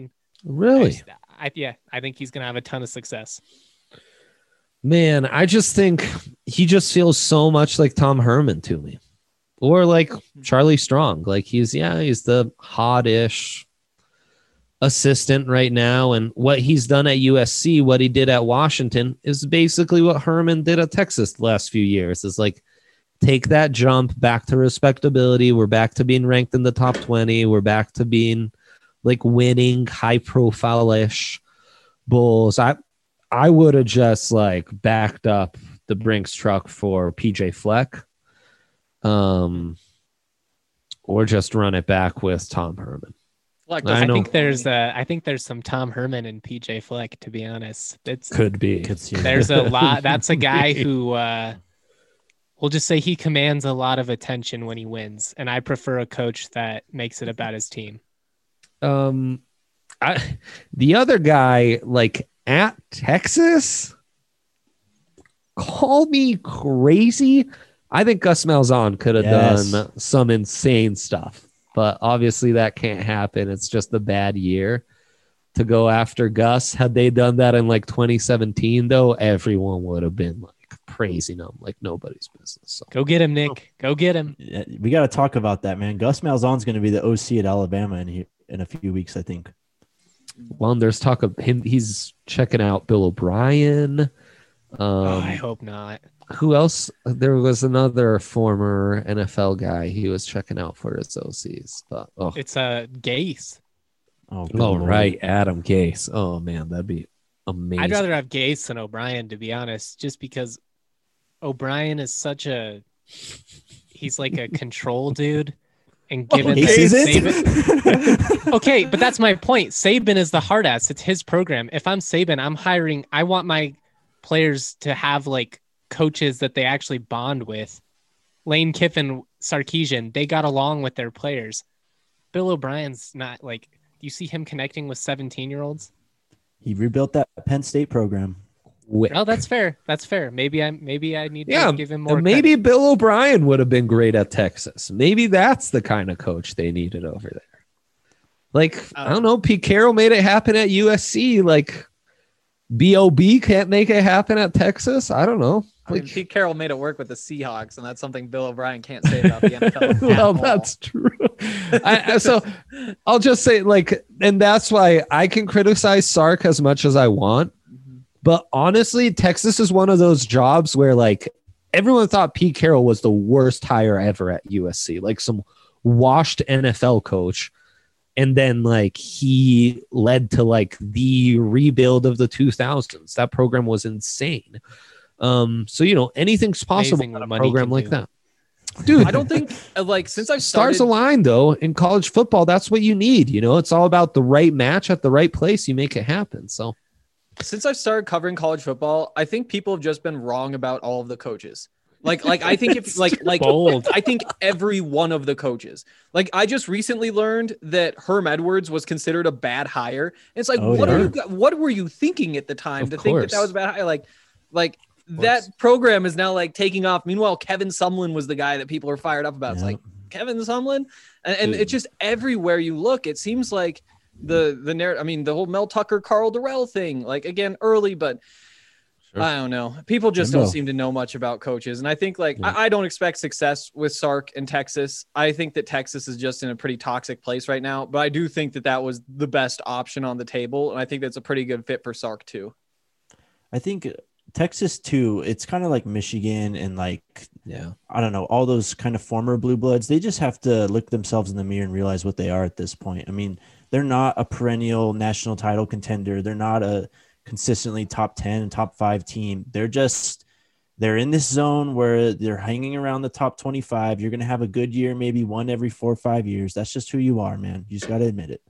Really? I think he's gonna have a ton of success. Man, I just think he just feels so much like Tom Herman to me, or like Charlie Strong. Like he's the hot-ish assistant right now, and what he's done at USC, what he did at Washington, is basically what Herman did at Texas the last few years. Is like take that jump back to respectability. We're back to being ranked in the top 20. We're back to being like winning, high-profile-ish Bulls. I would have just like backed up the Brinks truck for PJ Fleck, or just run it back with Tom Herman. Fleck I doesn't know. I think there's some Tom Herman and PJ Fleck, to be honest. Could be. Could see There's a lot. That's a guy who we'll just say he commands a lot of attention when he wins, and I prefer a coach that makes it about his team. The other guy, like at Texas, call me crazy. I think Gus Malzahn could have done some insane stuff, but obviously that can't happen. It's just a bad year to go after Gus. Had they done that in like 2017, though, everyone would have been like praising him like nobody's business. So. Go get him, Nick. Go get him. Yeah, we got to talk about that, man. Gus Malzahn's going to be the OC at Alabama in a few weeks, I think. Well, there's talk of him. He's checking out Bill O'Brien. I hope not. Who else? There was another former NFL guy he was checking out for his OCs. But, It's Gase. Oh, right. Adam Gase. Oh, man, that'd be amazing. I'd rather have Gase than O'Brien, to be honest, just because O'Brien is he's like a control dude. And given Saban, okay, but that's my point. Saban is the hard ass. It's his program. If I'm Saban, I want my players to have like coaches that they actually bond with. Lane Kiffin, Sarkisian, they got along with their players. Bill O'Brien's not like, do you see him connecting with 17-year-olds? He rebuilt that Penn State program. Oh, that's fair. That's fair. Maybe I need to give him more. Maybe credit. Bill O'Brien would have been great at Texas. Maybe that's the kind of coach they needed over there. Like, I don't know. Pete Carroll made it happen at USC. Like, B.O.B. can't make it happen at Texas. I don't know. I mean, Pete Carroll made it work with the Seahawks, and that's something Bill O'Brien can't say about the NFL. Well, that's true. So I'll just say, like, and that's why I can criticize Sark as much as I want. But honestly, Texas is one of those jobs where, like, everyone thought Pete Carroll was the worst hire ever at USC, like some washed NFL coach. And then, like, he led to, like, the rebuild of the 2000s. That program was insane. So, you know, anything's possible in a program like that. Dude, I don't think, like, since I've stars started... align, though, in college football. That's what you need. You know, it's all about the right match at the right place. You make it happen. So, since I've started covering college football, I think people have just been wrong about all of the coaches. Like I think if like bold. I think every one of the coaches. Like I just recently learned that Herm Edwards was considered a bad hire. It's like, what were you thinking at the time to think that was a bad hire? Like that program is now like taking off. Meanwhile, Kevin Sumlin was the guy that people are fired up about. It's like Kevin Sumlin, and it's just everywhere you look. It seems like the narrative. I mean, the whole Mel Tucker, Carl Durrell thing. Like again, early, but. Sure. I don't know. People just don't seem to know much about coaches. And I think I don't expect success with Sark in Texas. I think that Texas is just in a pretty toxic place right now, but I do think that was the best option on the table. And I think that's a pretty good fit for Sark too. I think Texas too, it's kind of like Michigan and like, I don't know, all those kind of former blue bloods. They just have to look themselves in the mirror and realize what they are at this point. I mean, they're not a perennial national title contender. They're not a consistently top 10 and top 5 team. They're in this zone where they're hanging around the top 25. You're going to have a good year, maybe one every 4 or 5 years. That's just who you are, man. You just got to admit it.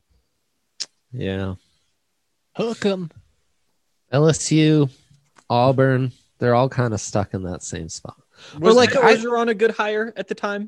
Yeah. Hook 'em. LSU, Auburn, they're all kind of stuck in that same spot. Was like Orgeron a good hire at the time?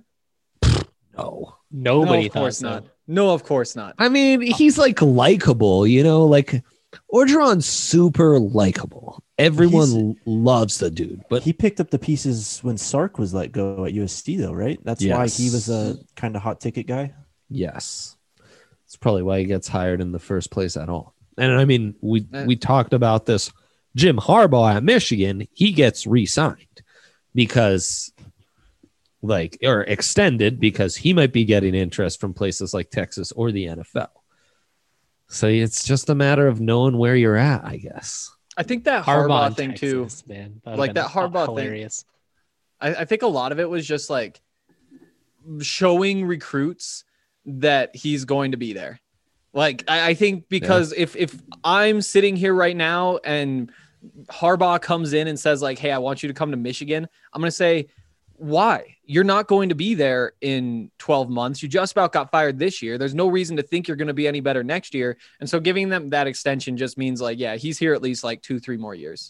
No. Nobody of course thought so. not. No, of course not. I mean, he's like likable, you know, like Orgeron's super likable. Everyone loves the dude, but he picked up the pieces when Sark was let go at USC, though, right? That's why he was a kind of hot ticket guy. Yes, it's probably why he gets hired in the first place at all. And I mean, we talked about this. Jim Harbaugh at Michigan, he gets re-signed because or extended because he might be getting interest from places like Texas or the NFL. So it's just a matter of knowing where you're at, I guess. I think that Harbaugh Harbaugh thing Texas, too, man. like that Harbaugh hilarious. thing. I think a lot of it was just like showing recruits that he's going to be there. Like I think because if I'm sitting here right now and Harbaugh comes in and says like, "Hey, I want you to come to Michigan," I'm going to say, why? You're not going to be there in 12 months. You just about got fired this year. There's no reason to think you're going to be any better next year. And so giving them that extension just means like, yeah, he's here at least like 2-3 more years.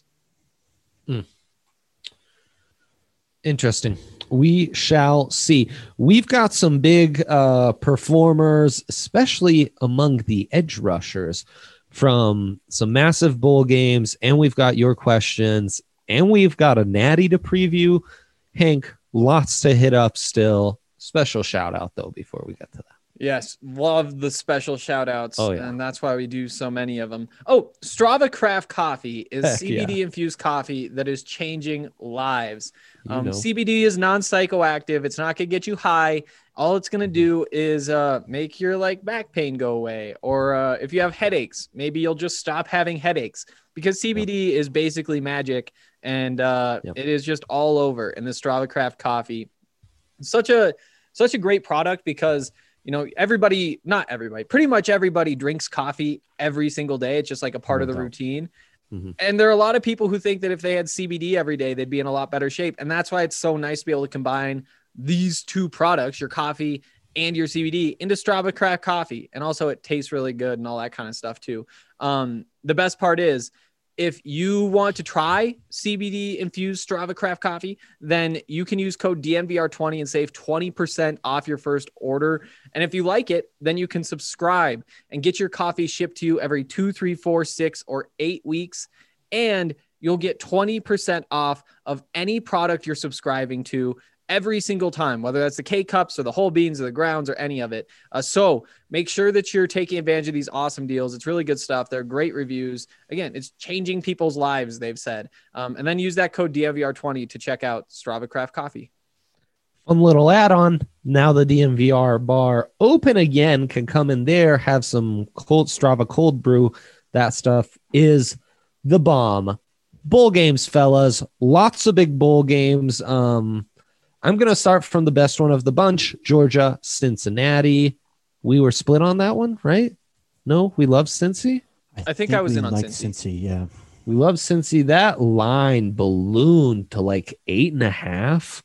Interesting. We shall see. We've got some big performers, especially among the edge rushers from some massive bowl games. And we've got your questions and we've got a natty to preview. Hank, lots to hit up still. Special shout out though before we get to that. Yes, love the special shout outs. Oh, yeah. And that's why we do so many of them. Oh, Strava Craft Coffee is Heck CBD yeah. infused coffee that is changing lives. You know. CBD is non-psychoactive. It's not going to get you high. All it's going to do is make your like back pain go away. Or if you have headaches, maybe you'll just stop having headaches because CBD is basically magic. And it is just all over in the Strava Craft coffee. Such a great product because, you know, not everybody, pretty much everybody drinks coffee every single day. It's just like a part of the routine. Mm-hmm. And there are a lot of people who think that if they had CBD every day, they'd be in a lot better shape. And that's why it's so nice to be able to combine these two products, your coffee and your CBD, into Strava Craft coffee. And also it tastes really good and all that kind of stuff too. The best part is, if you want to try CBD infused Strava Craft coffee, then you can use code DNVR20 and save 20% off your first order. And if you like it, then you can subscribe and get your coffee shipped to you every 2, 3, 4, 6, or 8 weeks. And you'll get 20% off of any product you're subscribing to every single time, whether that's the K-Cups or the whole beans or the grounds or any of it. So make sure that you're taking advantage of these awesome deals. It's really good stuff. They're great reviews. Again, it's changing people's lives, they've said. And then use that code DNVR20 to check out Strava Craft Coffee. Fun little add-on. Now the DNVR bar open again, can come in there, have some cold Strava cold brew. That stuff is the bomb. Bowl games, fellas. Lots of big bowl games. I'm going to start from the best one of the bunch, Georgia, Cincinnati. We were split on that one, right? No, we love Cincy. I think I was in on Cincy. Yeah. We love Cincy. That line ballooned to like 8.5.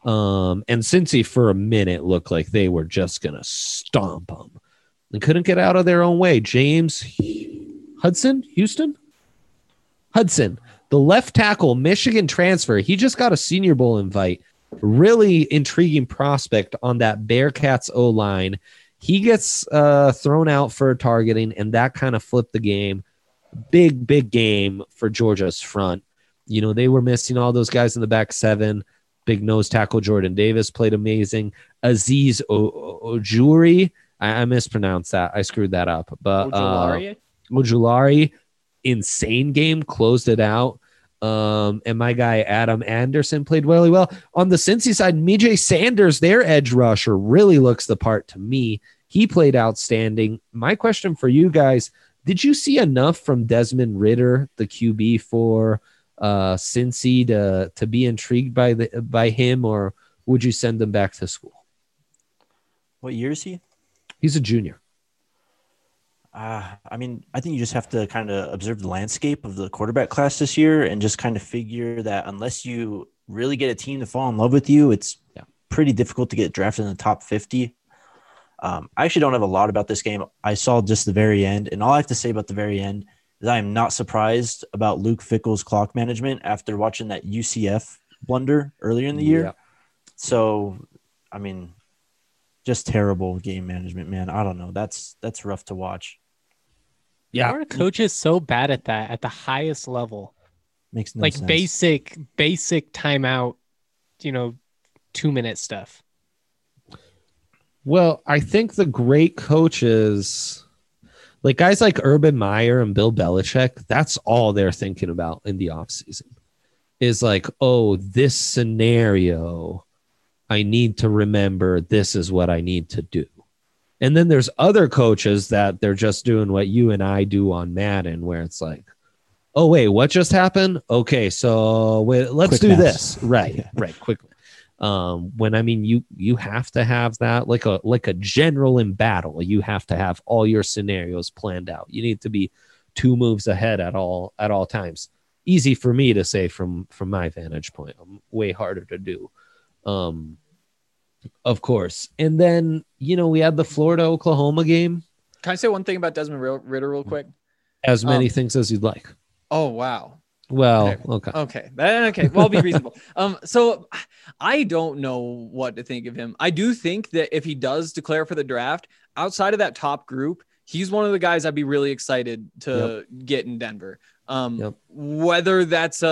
And Cincy for a minute looked like they were just going to stomp them. They couldn't get out of their own way. James Hudson, the left tackle, Michigan transfer. He just got a Senior Bowl invite. Really intriguing prospect on that Bearcats O-line. He gets thrown out for targeting, and that kind of flipped the game. Big game for Georgia's front. You know, they were missing all those guys in the back seven. Big nose tackle Jordan Davis played amazing. Aziz Ojulari, I mispronounced that. I screwed that up. But Ojulari, insane game, closed it out. And my guy Adam Anderson played really well. On the Cincy side, Mijay Sanders, their edge rusher, really looks the part to me. He played outstanding. My question for you guys, did you see enough from Desmond Ridder, the QB for Cincy, to be intrigued by him, or would you send him back to school? What year is he? He's a junior. I mean, I think you just have to kind of observe the landscape of the quarterback class this year and just kind of figure that unless you really get a team to fall in love with you, it's pretty difficult to get drafted in the top 50. I actually don't have a lot about this game. I saw just the very end, and all I have to say about the very end is I am not surprised about Luke Fickell's clock management after watching that UCF blunder earlier in the year. Yeah. So, I mean, just terrible game management, man. I don't know. That's rough to watch. Yeah. Our coach is so bad at that at the highest level. Makes no like sense. basic timeout, 2-minute stuff. Well, I think the great coaches, Like guys like Urban Meyer and Bill Belichick, that's all they're thinking about in the offseason is like, oh, this scenario, I need to remember this is what I need to do. And then there's other coaches that they're just doing what you and I do on Madden, where it's like, oh, wait, what just happened? Okay, so let's Quick do maths. this. Right, right, quickly. When I mean you have to have that like a general in battle. You have to have all your scenarios planned out. You need to be 2 moves ahead at all times. Easy for me to say from my vantage point. Way harder to do. Of course. And then, we had the Florida Oklahoma game. Can I say one thing about Desmond Ritter real quick? As many things as you'd like. Oh, wow. Well, okay. Okay. Well, I'll be reasonable. So I don't know what to think of him. I do think that if he does declare for the draft, outside of that top group, he's one of the guys I'd be really excited to get in Denver. Whether that's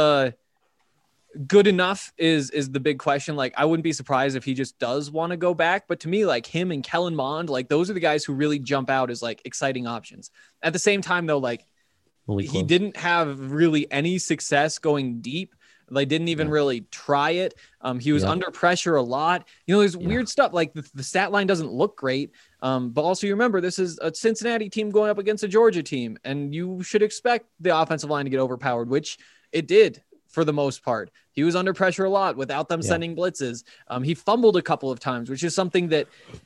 good enough is the big question. Like, I wouldn't be surprised if he just does want to go back. But to me, like him and Kellen Mond, like those are the guys who really jump out as like exciting options. At the same time, though, like, he didn't have really any success going deep. They didn't even really try it. He was under pressure a lot. There's weird stuff like the stat line doesn't look great. But also you remember this is a Cincinnati team going up against a Georgia team, and you should expect the offensive line to get overpowered, which it did for the most part. He was under pressure a lot without them sending blitzes. He fumbled a couple of times, which is something that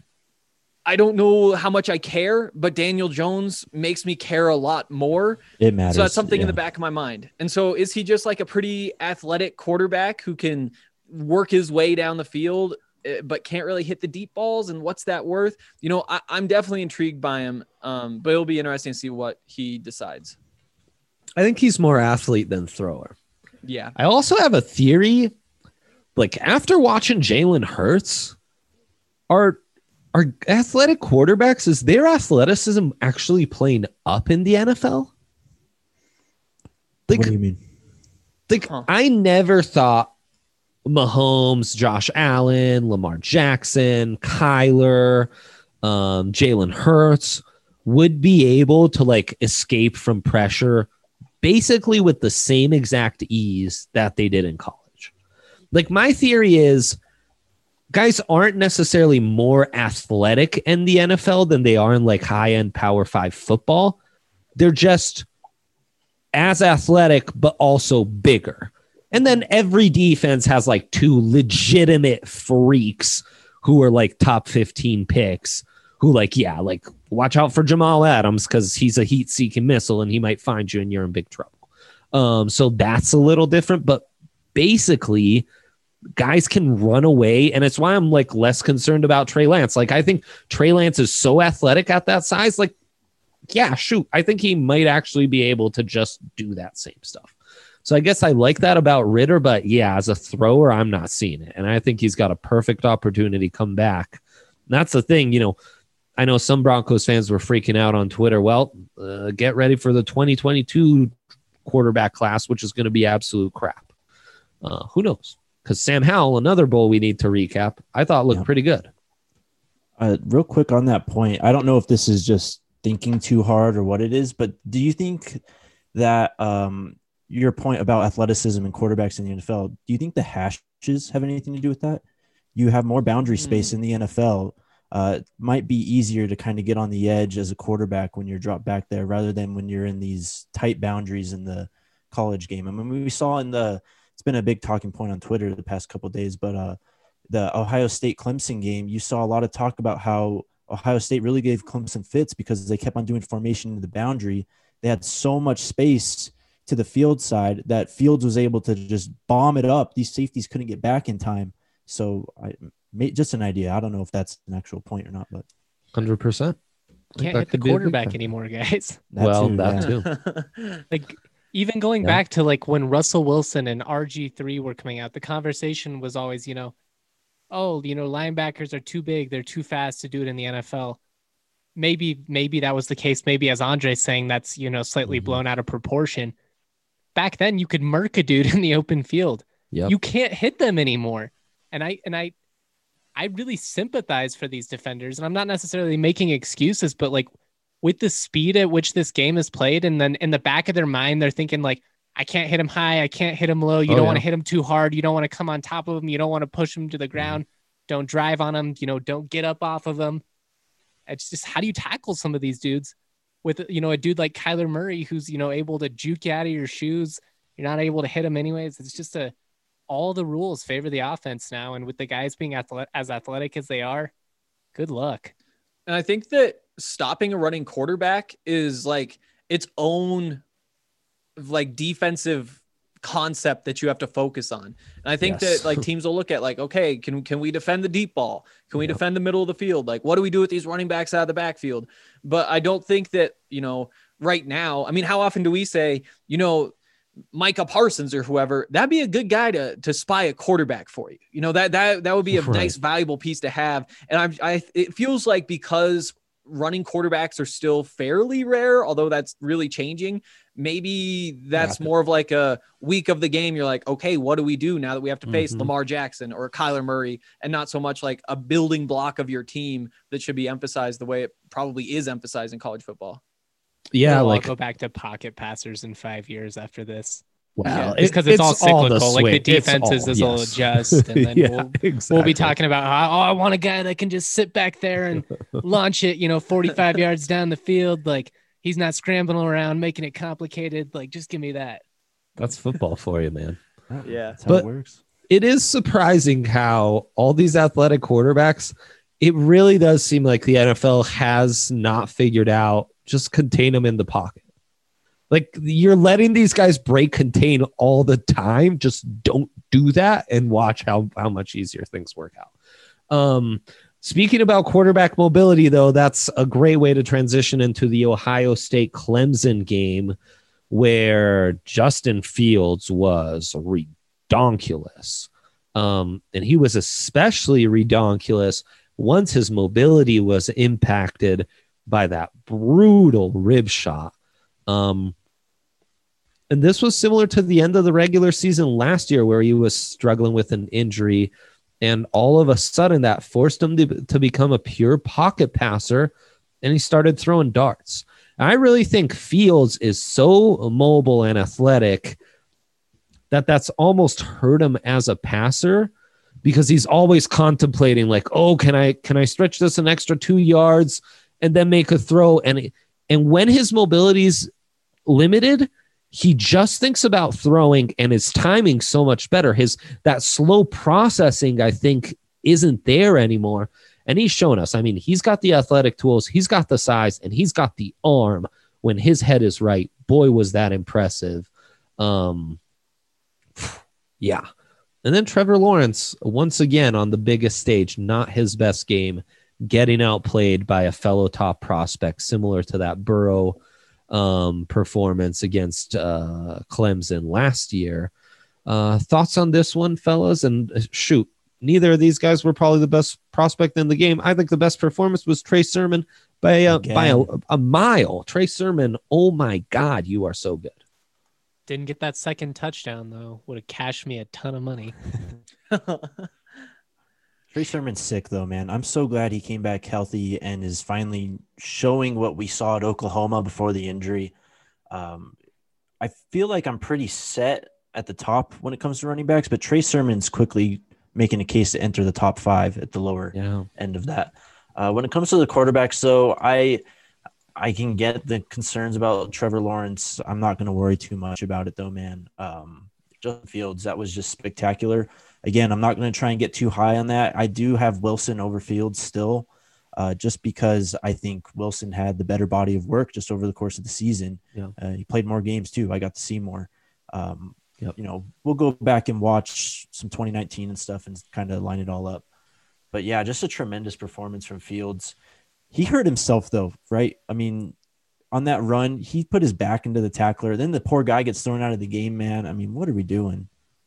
I don't know how much I care, but Daniel Jones makes me care a lot more. It matters. So that's something in the back of my mind. And so is he just like a pretty athletic quarterback who can work his way down the field, but can't really hit the deep balls? And what's that worth? I'm definitely intrigued by him, but it'll be interesting to see what he decides. I think he's more athlete than thrower. Yeah. I also have a theory, like after watching Jalen Hurts, are athletic quarterbacks, is their athleticism actually playing up in the NFL? Like, what do you mean? Like, I never thought Mahomes, Josh Allen, Lamar Jackson, Kyler, Jalen Hurts would be able to like escape from pressure basically with the same exact ease that they did in college. Like, my theory is guys aren't necessarily more athletic in the NFL than they are in like high-end Power 5 football. They're just as athletic, but also bigger. And then every defense has like 2 legitimate freaks who are like top 15 picks who like watch out for Jamal Adams because he's a heat-seeking missile and he might find you and you're in big trouble. So that's a little different, but basically guys can run away, and it's why I'm like less concerned about Trey Lance. Like, I think Trey Lance is so athletic at that size. Like, yeah, shoot, I think he might actually be able to just do that same stuff. So I guess I like that about Ritter, but yeah, as a thrower, I'm not seeing it. And I think he's got a perfect opportunity to come back. And that's the thing, I know some Broncos fans were freaking out on Twitter. Well, get ready for the 2022 quarterback class, which is going to be absolute crap. Who knows? Because Sam Howell, another bowl we need to recap, I thought looked pretty good. Real quick on that point, I don't know if this is just thinking too hard or what it is, but do you think that your point about athleticism and quarterbacks in the NFL, do you think the hashes have anything to do with that? You have more boundary space in the NFL. It might be easier to kind of get on the edge as a quarterback when you're dropped back there rather than when you're in these tight boundaries in the college game. I mean, we saw it's been a big talking point on Twitter the past couple of days, but the Ohio State Clemson game, you saw a lot of talk about how Ohio State really gave Clemson fits because they kept on doing formation to the boundary. They had so much space to the field side that Fields was able to just bomb it up. These safeties couldn't get back in time. So just an idea. I don't know if that's an actual point or not, but 100%. Can't hit the quarterback anymore, guys. That too. Like, even going back to like when Russell Wilson and RG3 were coming out, the conversation was always, linebackers are too big. They're too fast to do it in the NFL. Maybe that was the case. Maybe, as Andre's saying, that's, slightly blown out of proportion. Back then you could murk a dude in the open field. Yep. You can't hit them anymore. And I really sympathize for these defenders, and I'm not necessarily making excuses, but like with the speed at which this game is played, and then in the back of their mind, they're thinking like, I can't hit him high. I can't hit him low. You don't want to hit him too hard. You don't want to come on top of him. You don't want to push him to the ground. Don't drive on him. Don't get up off of him. It's just, how do you tackle some of these dudes with, a dude like Kyler Murray, who's, able to juke you out of your shoes. You're not able to hit him anyways. It's just all the rules favor the offense now. And with the guys being as athletic as they are, good luck. And I think that stopping a running quarterback is like its own like defensive concept that you have to focus on. And I think that like teams will look at like, okay, can we defend the deep ball? Can we defend the middle of the field? Like, what do we do with these running backs out of the backfield? But I don't think that, right now, I mean, how often do we say, Micah Parsons or whoever, that'd be a good guy to spy a quarterback for you. That would be a nice, valuable piece to have. And it feels like because running quarterbacks are still fairly rare, although that's really changing. Maybe that's more of like a week of the game. You're like, okay, what do we do now that we have to face Lamar Jackson or Kyler Murray, and not so much like a building block of your team that should be emphasized the way it probably is emphasized in college football. Yeah. I'll like go back to pocket passers in 5 years after this. Well, it's because it's all cyclical. Like the defenses will yes. adjust, and then we'll be talking about how, I want a guy that can just sit back there and launch it, 45 yards down the field. Like, he's not scrambling around, making it complicated. Like, just give me that. That's football for you, man. Yeah, that's how it works. It is surprising how all these athletic quarterbacks, it really does seem like the NFL has not figured out just contain them in the pocket. Like, you're letting these guys break contain all the time. Just don't do that and watch how much easier things work out. Speaking about quarterback mobility, though, that's a great way to transition into the Ohio State Clemson game, where Justin Fields was redonkulous. And he was especially redonkulous once his mobility was impacted by that brutal rib shot. And this was similar to the end of the regular season last year, where he was struggling with an injury, and all of a sudden that forced him to become a pure pocket passer, and he started throwing darts. I really think Fields is so mobile and athletic that that's almost hurt him as a passer, because he's always contemplating like, oh, can I stretch this an extra 2 yards and then make a throw? And when his mobility's limited, he just thinks about throwing, and his timing so much better. That slow processing, I think, isn't there anymore. And he's shown us, I mean, he's got the athletic tools, he's got the size, and he's got the arm when his head is right. Boy, was that impressive. Yeah. And then Trevor Lawrence, once again, on the biggest stage, not his best game, getting outplayed by a fellow top prospect, similar to that Burrow performance against Clemson last year. Thoughts on this one, fellas? And shoot, neither of these guys were probably the best prospect in the game. I think the best performance was Trey Sermon by a mile. Trey Sermon, oh my God, you are so good. Didn't get that second touchdown, though. Would have cashed me a ton of money. Trey Sermon's sick, though, man. I'm so glad he came back healthy and is finally showing what we saw at Oklahoma before the injury. I feel like I'm pretty set at the top when it comes to running backs, but Trey Sermon's quickly making a case to enter the top 5 at the lower end of that. When it comes to the quarterbacks, though, I can get the concerns about Trevor Lawrence. I'm not going to worry too much about it, though, man. Justin Fields, that was just spectacular. Again, I'm not going to try and get too high on that. I do have Wilson over Fields still, just because I think Wilson had the better body of work just over the course of the season. Yeah. He played more games, too. I got to see more. We'll go back and watch some 2019 and stuff and kind of line it all up. But, yeah, just a tremendous performance from Fields. He hurt himself, though, right? I mean, on that run, he put his back into the tackler. Then the poor guy gets thrown out of the game, man. I mean, what are we doing?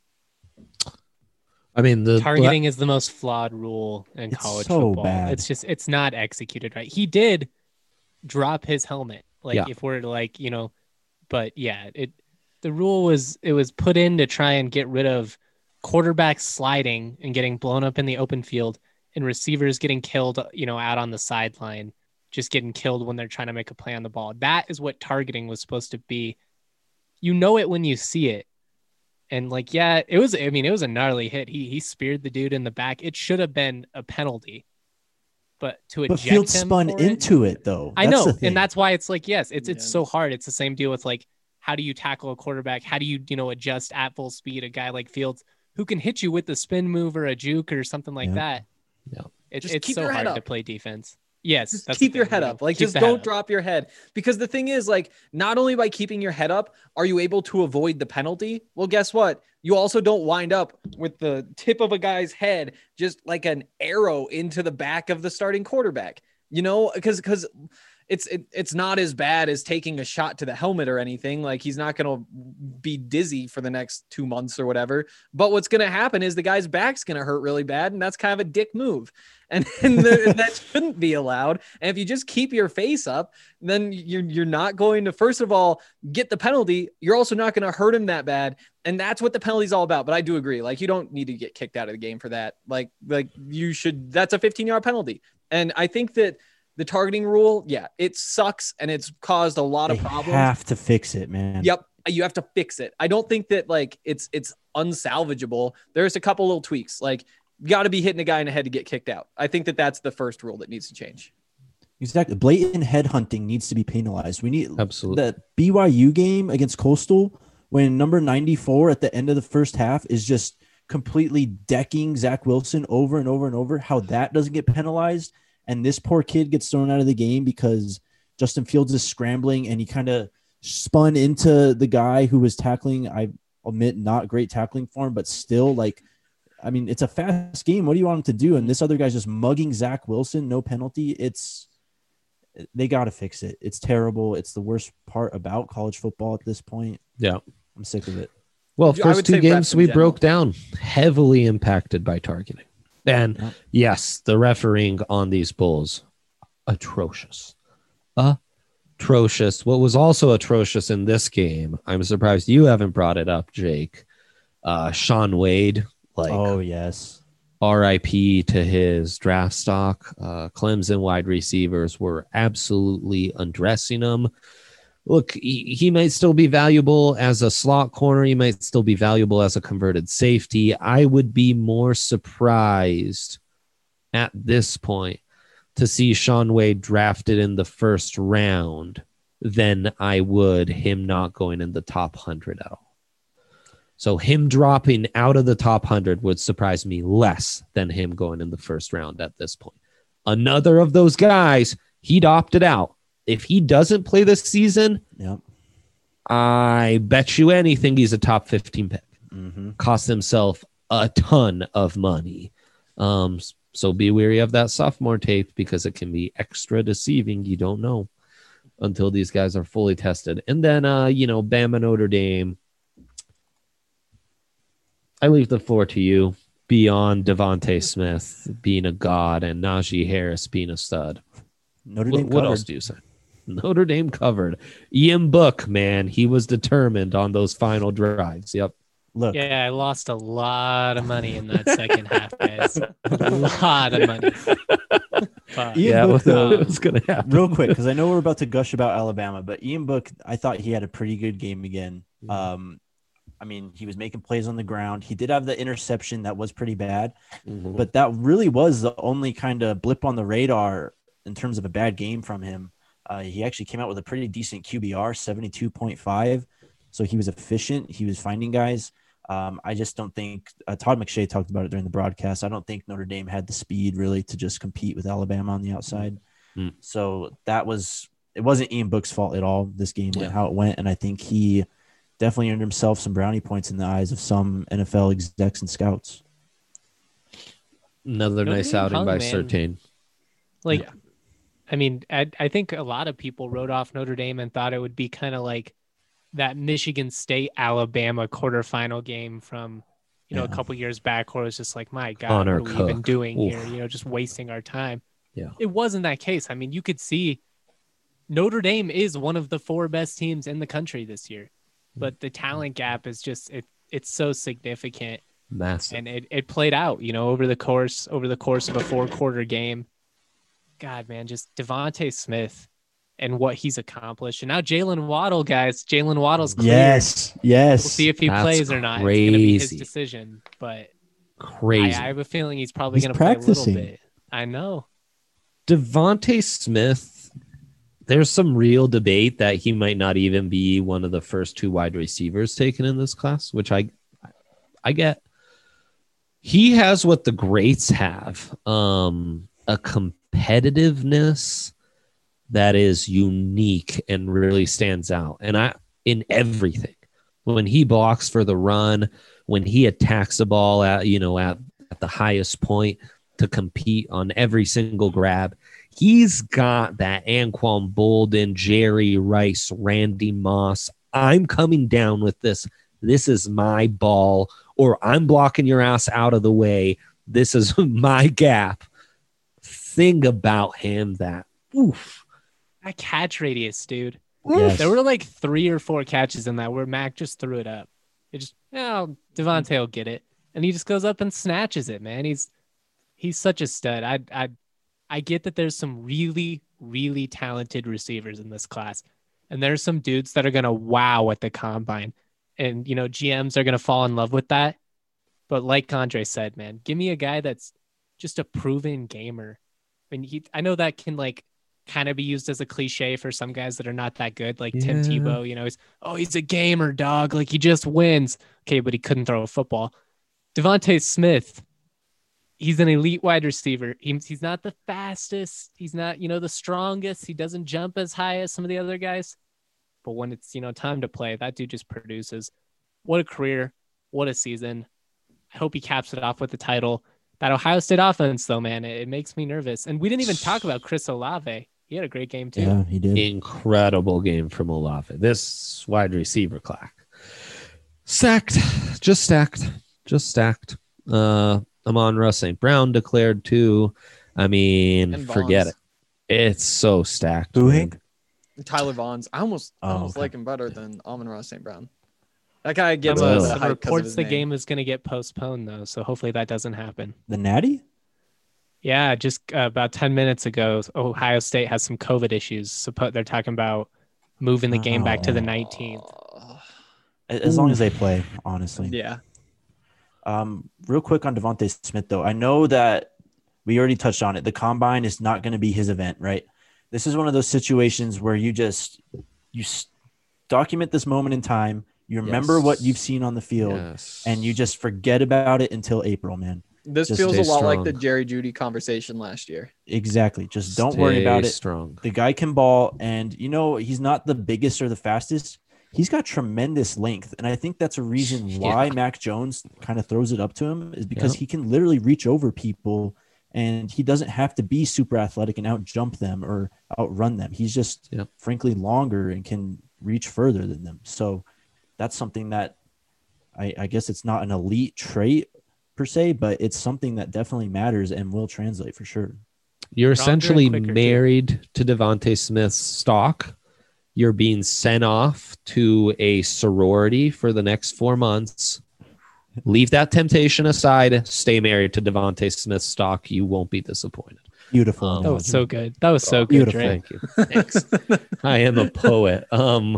I mean, the targeting is the most flawed rule in college football. Bad. It's not executed right. He did drop his helmet. If we're like, but yeah, the rule was put in to try and get rid of quarterbacks sliding and getting blown up in the open field and receivers getting killed, out on the sideline. just getting killed when they're trying to make a play on the ball. That is what targeting was supposed to be. You know it when you see it. And like, yeah, it was a gnarly hit. He speared the dude in the back. It should have been a penalty. But to eject him Fields spun for into it though. I That's know. the thing. And that's why it's like, yes, it's so hard. It's the same deal with like, how do you tackle a quarterback? How do you, adjust at full speed a guy like Fields who can hit you with the spin move or a juke or something like that? Yeah. It's keep so your head hard to up. play defense. Yes. Just that's keep the your thing. head up. Like, Keep just the head don't up. drop your head. Because the thing is, like, not only by keeping your head up are you able to avoid the penalty. Well, guess what? You also don't wind up with the tip of a guy's head just like an arrow into the back of the starting quarterback. Because it's not as bad as taking a shot to the helmet or anything. Like, he's not going to be dizzy for the next 2 months or whatever. But what's going to happen is the guy's back's going to hurt really bad. And that's kind of a dick move. And that shouldn't be allowed. And if you just keep your face up, then you're not going to, first of all, get the penalty. You're also not going to hurt him that bad. And that's what the penalty is all about. But I do agree. Like, you don't need to get kicked out of the game for that. Like you should, that's a 15-yard penalty. And I think that the targeting rule, yeah, it sucks. And it's caused a lot of problems. Have to fix it, man. Yep. You have to fix it. I don't think that like it's unsalvageable. There's a couple little tweaks. Like, you got to be hitting a guy in the head to get kicked out. I think that that's the first rule that needs to change. Exactly. Blatant headhunting needs to be penalized. We need Absolutely. that BYU game against Coastal when number 94 at the end of the first half is just completely decking Zach Wilson over and over and over. How that doesn't get penalized. And this poor kid gets thrown out of the game because Justin Fields is scrambling and he kind of spun into the guy who was tackling. I admit, not great tackling for him, but still, like, I mean, it's a fast game. What do you want him to do? And this other guy's just mugging Zach Wilson, no penalty. They got to fix it. It's terrible. It's the worst part about college football at this point. Yeah. I'm sick of it. Well, I first would two say games refs in we general. broke down, heavily impacted by targeting. And Yep. yes, the refereeing on these bulls, atrocious. Atrocious. What was also atrocious in this game, I'm surprised you haven't brought it up, Jake. Sean Wade, like, Oh, yes. RIP to his draft stock. Clemson wide receivers were absolutely undressing him. Look, he might still be valuable as a slot corner. He might still be valuable as a converted safety. I would be more surprised at this point to see Sean Wade drafted in the first round than I would him not going in the top 100 at all. So him dropping out of the top 100 would surprise me less than him going in the first round at this point. Another of those guys, he'd opted out. If he doesn't play this season, Yep. I bet you anything he's a top 15 pick. Mm-hmm. Cost himself a ton of money. So be wary of that sophomore tape because it can be extra deceiving. You don't know until these guys are fully tested. And then, Bama Notre Dame. I leave the floor to you. Beyond Devontae Smith being a god and Najee Harris being a stud. Notre Dame What covered. else do you say? Notre Dame covered. Ian Book, man, he was determined on those final drives. Yep. Look, Yeah, I lost a lot of money in that second half, guys. A lot of money. But, Ian Book, though, it was going to happen. real quick, because I know we're about to gush about Alabama, but Ian Book, I thought he had a pretty good game again. I mean, he was making plays on the ground. He did have the interception that was pretty bad, Mhm. but that really was the only kind of blip on the radar in terms of a bad game from him. He actually came out with a pretty decent QBR, 72.5. So he was efficient. He was finding guys. I just don't think Todd McShay talked about it during the broadcast. I don't think Notre Dame had the speed really to just compete with Alabama on the outside. Mm. So it wasn't Ian Book's fault at all. This game went Yeah. how it went. And I think he definitely earned himself some brownie points in the eyes of some NFL execs and scouts. Another Notre nice Dame outing hung, by man. Surtain. Like, Yeah. I mean, I think a lot of people wrote off Notre Dame and thought it would be kind of like that Michigan State Alabama quarterfinal game from, a Yeah. couple years back, where it was just like, my God, Connor what are we even Cook. doing Oof. here? Just wasting our time. Yeah. It wasn't that case. I mean, you could see Notre Dame is one of the 4 best teams in the country this year, but the talent gap is just it's so significant. Massive. And it played out, over the course of a 4-quarter game. God, man, just Devontae Smith and what he's accomplished. And now Jalen Waddle, guys. Jalen Waddle's cleared. Yes. We'll see if he That's plays or not. It's going to be his crazy. decision. But Crazy. I have a feeling he's probably He's going to play a practicing. little bit. I know. Devontae Smith, there's some real debate that he might not even be one of the first 2 wide receivers taken in this class, which I get. He has what the greats have, a competitiveness that is unique and really stands out. And in everything, when he blocks for the run, when he attacks the ball at the highest point to compete on every single grab, he's got that Anquan Bolden, Jerry Rice, Randy Moss. I'm coming down with this. This is my ball, or I'm blocking your ass out of the way. This is my gap. Thing about him that, oof. That catch radius, dude. Yes. There were like 3 or 4 catches in that where Mac just threw it up. It just, Devontae will get it. And he just goes up and snatches it, man. He's such a stud. I get that there's some really, really talented receivers in this class. And there's some dudes that are going to wow at the combine. And, GMs are going to fall in love with that. But like Andre said, man, give me a guy that's just a proven gamer. I mean, I know that can kind of be used as a cliche for some guys that are not that good, like Tim Yeah. Tebow. He's a gamer, dog. Like, he just wins. Okay, but he couldn't throw a football. Devontae Smith, he's an elite wide receiver. He's not the fastest. He's not, the strongest. He doesn't jump as high as some of the other guys. But when it's, time to play, that dude just produces. What a career. What a season. I hope he caps it off with the title. That Ohio State offense, though, man, it makes me nervous. And we didn't even talk about Chris Olave. He had a great game, too. Yeah, he did. Incredible game from Olave. This wide receiver class. Stacked. Just stacked. Amon-Ra St. Brown declared too. I mean, And forget it. Vaughns. It's so stacked. Who, man. Hank? Tyler Vaughns. I almost Okay. like him better than Amon-Ra St. Brown. That guy gets Really? all the Some hype 'cause of reports his the name. game is going to get postponed, though. So hopefully that doesn't happen. The Natty? Yeah, just about 10 minutes ago, Ohio State has some COVID issues. So they're talking about moving the game back to the 19th. As long as they play, honestly. Yeah. Real quick on Devontae Smith, though. I know that we already touched on it. The combine is not going to be his event, right? This is one of those situations where you document this moment in time. You remember what you've seen on the field, Yes. and you just forget about it until April, man. This Just feels a stay lot like the strong. Jerry Judy conversation last year. Exactly. Just don't worry about Stay it. Strong. The guy can ball, and he's not the biggest or the fastest. He's got tremendous length, and I think that's a reason why Mac Jones kind of throws it up to him, is because Yep. he can literally reach over people, and he doesn't have to be super athletic and out jump them or outrun them. He's just Yep. frankly longer and can reach further than them. So that's something that I guess it's not an elite trait per se, but it's something that definitely matters and will translate for sure. You're Stronger and essentially quicker, too. married to Devontae Smith's stock. You're being sent off to a sorority for the next 4 months. Leave that temptation aside. Stay married to Devontae Smith's stock. You won't be disappointed. Beautiful. That was analogy. so good. That was so good, Beautiful. Dre. Thank you. Thanks. I am a poet.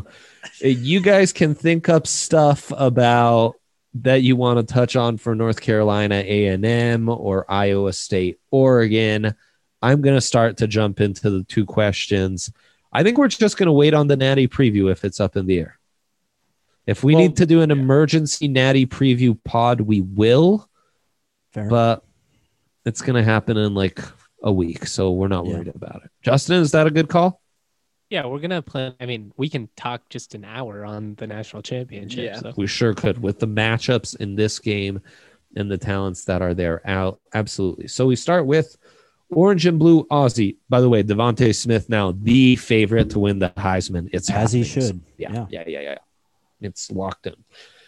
You guys can think up stuff about that you want to touch on for North Carolina A&M or Iowa State, Oregon. I'm going to start to jump into the 2 questions. I think we're just going to wait on the Natty preview if it's up in the air. If we need to do an emergency Natty preview pod, we will, Fair. but it's going to happen in like a week, so we're not Yeah. worried about it. Justin, is that a good call? Yeah, we're going to plan. I mean, we can talk just an hour on the national championship. Yeah. So. We sure could with the matchups in this game and the talents that are there out. Absolutely. So we start with Orange and Blue Aussie. By the way, Devontae Smith now the favorite to win the Heisman. It's As he happening. should. Yeah. It's locked in.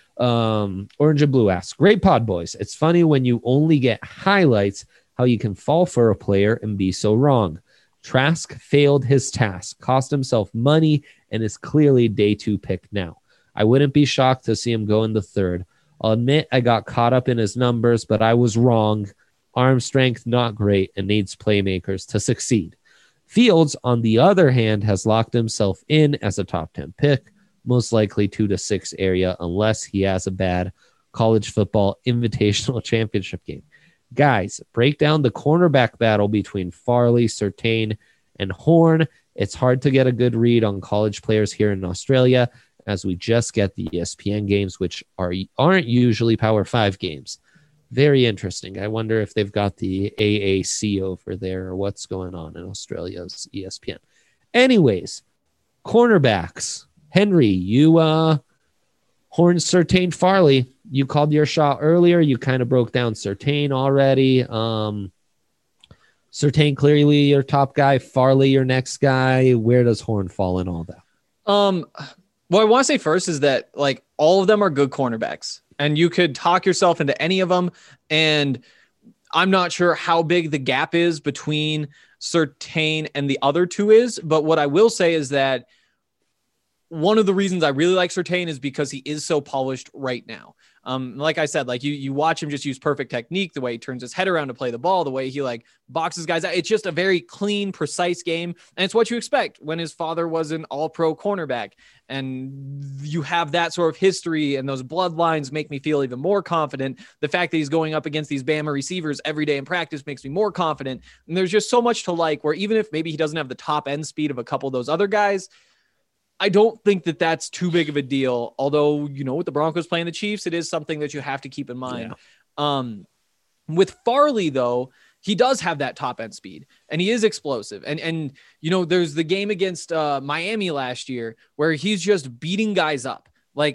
Orange and Blue asks, great pod boys. It's funny when you only get highlights how you can fall for a player and be so wrong. Trask failed his task, cost himself money, and is clearly day 2 pick now. I wouldn't be shocked to see him go in the 3rd. I'll admit I got caught up in his numbers, but I was wrong. Arm strength, not great, and needs playmakers to succeed. Fields, on the other hand, has locked himself in as a top 10 pick, most likely 2 to 6 area, unless he has a bad college football invitational championship game. Guys, break down the cornerback battle between Farley, Surtain, and Horn. It's hard to get a good read on college players here in Australia, as we just get the ESPN games, which aren't usually Power 5 games. Very interesting. I wonder if they've got the AAC over there or what's going on in Australia's ESPN. Anyways, cornerbacks. Henry, you Horn, Surtain, Farley. You called your shot earlier. You kind of broke down Surtain already. Surtain clearly your top guy. Farley your next guy. Where does Horn fall in all that? What I want to say first is that like all of them are good cornerbacks, and you could talk yourself into any of them. And I'm not sure how big the gap is between Surtain and the other two is, but what I will say is that one of the reasons I really like Surtain is because he is so polished right now. Like I said, like you watch him just use perfect technique, the way he turns his head around to play the ball, the way he like boxes guys out. It's just a very clean, precise game. And it's what you expect when his father was an all-pro cornerback. And you have that sort of history, and those bloodlines make me feel even more confident. The fact that he's going up against these Bama receivers every day in practice makes me more confident. And there's just so much to like, where even if maybe he doesn't have the top end speed of a couple of those other guys, I don't think that that's too big of a deal. Although, you know, with the Broncos playing the Chiefs, it is something that you have to keep in mind. Yeah. With Farley, though, he does have that top end speed, and he is explosive. And you know, there's the game against Miami last year where he's just beating guys up. Like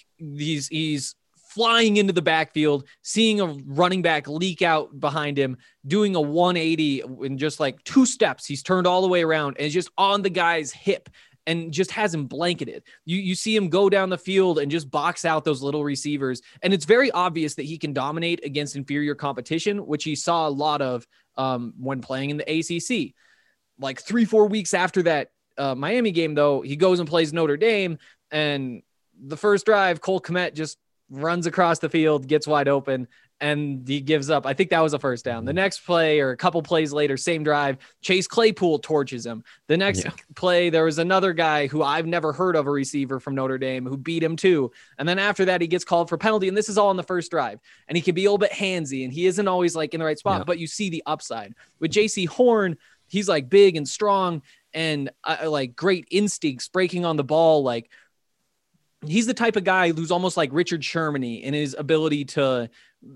he's flying into the backfield, seeing a running back leak out behind him, doing a 180 in just like 2 steps. He's turned all the way around and is just on the guy's hip, and just has him blanketed. You see him go down the field and just box out those little receivers. And it's very obvious that he can dominate against inferior competition, which he saw a lot of when playing in the ACC. Like 3-4 weeks after that Miami game, though, he goes and plays Notre Dame. And the first drive, Cole Kmet just runs across the field, gets wide open, and he gives up. I think that was a first down. The next play, or a couple plays later, same drive, Chase Claypool torches him. The next play, there was another guy who I've never heard of, a receiver from Notre Dame, who beat him too. And then after that, he gets called for penalty, and this is all in the first drive. And he can be a little bit handsy, and he isn't always like in the right spot, but you see the upside. With JC Horn, he's like big and strong and like great instincts breaking on the ball. Like, he's the type of guy who's almost like Richard Sherman in his ability to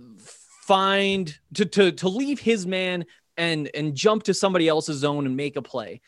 to leave his man and jump to somebody else's zone and make a play.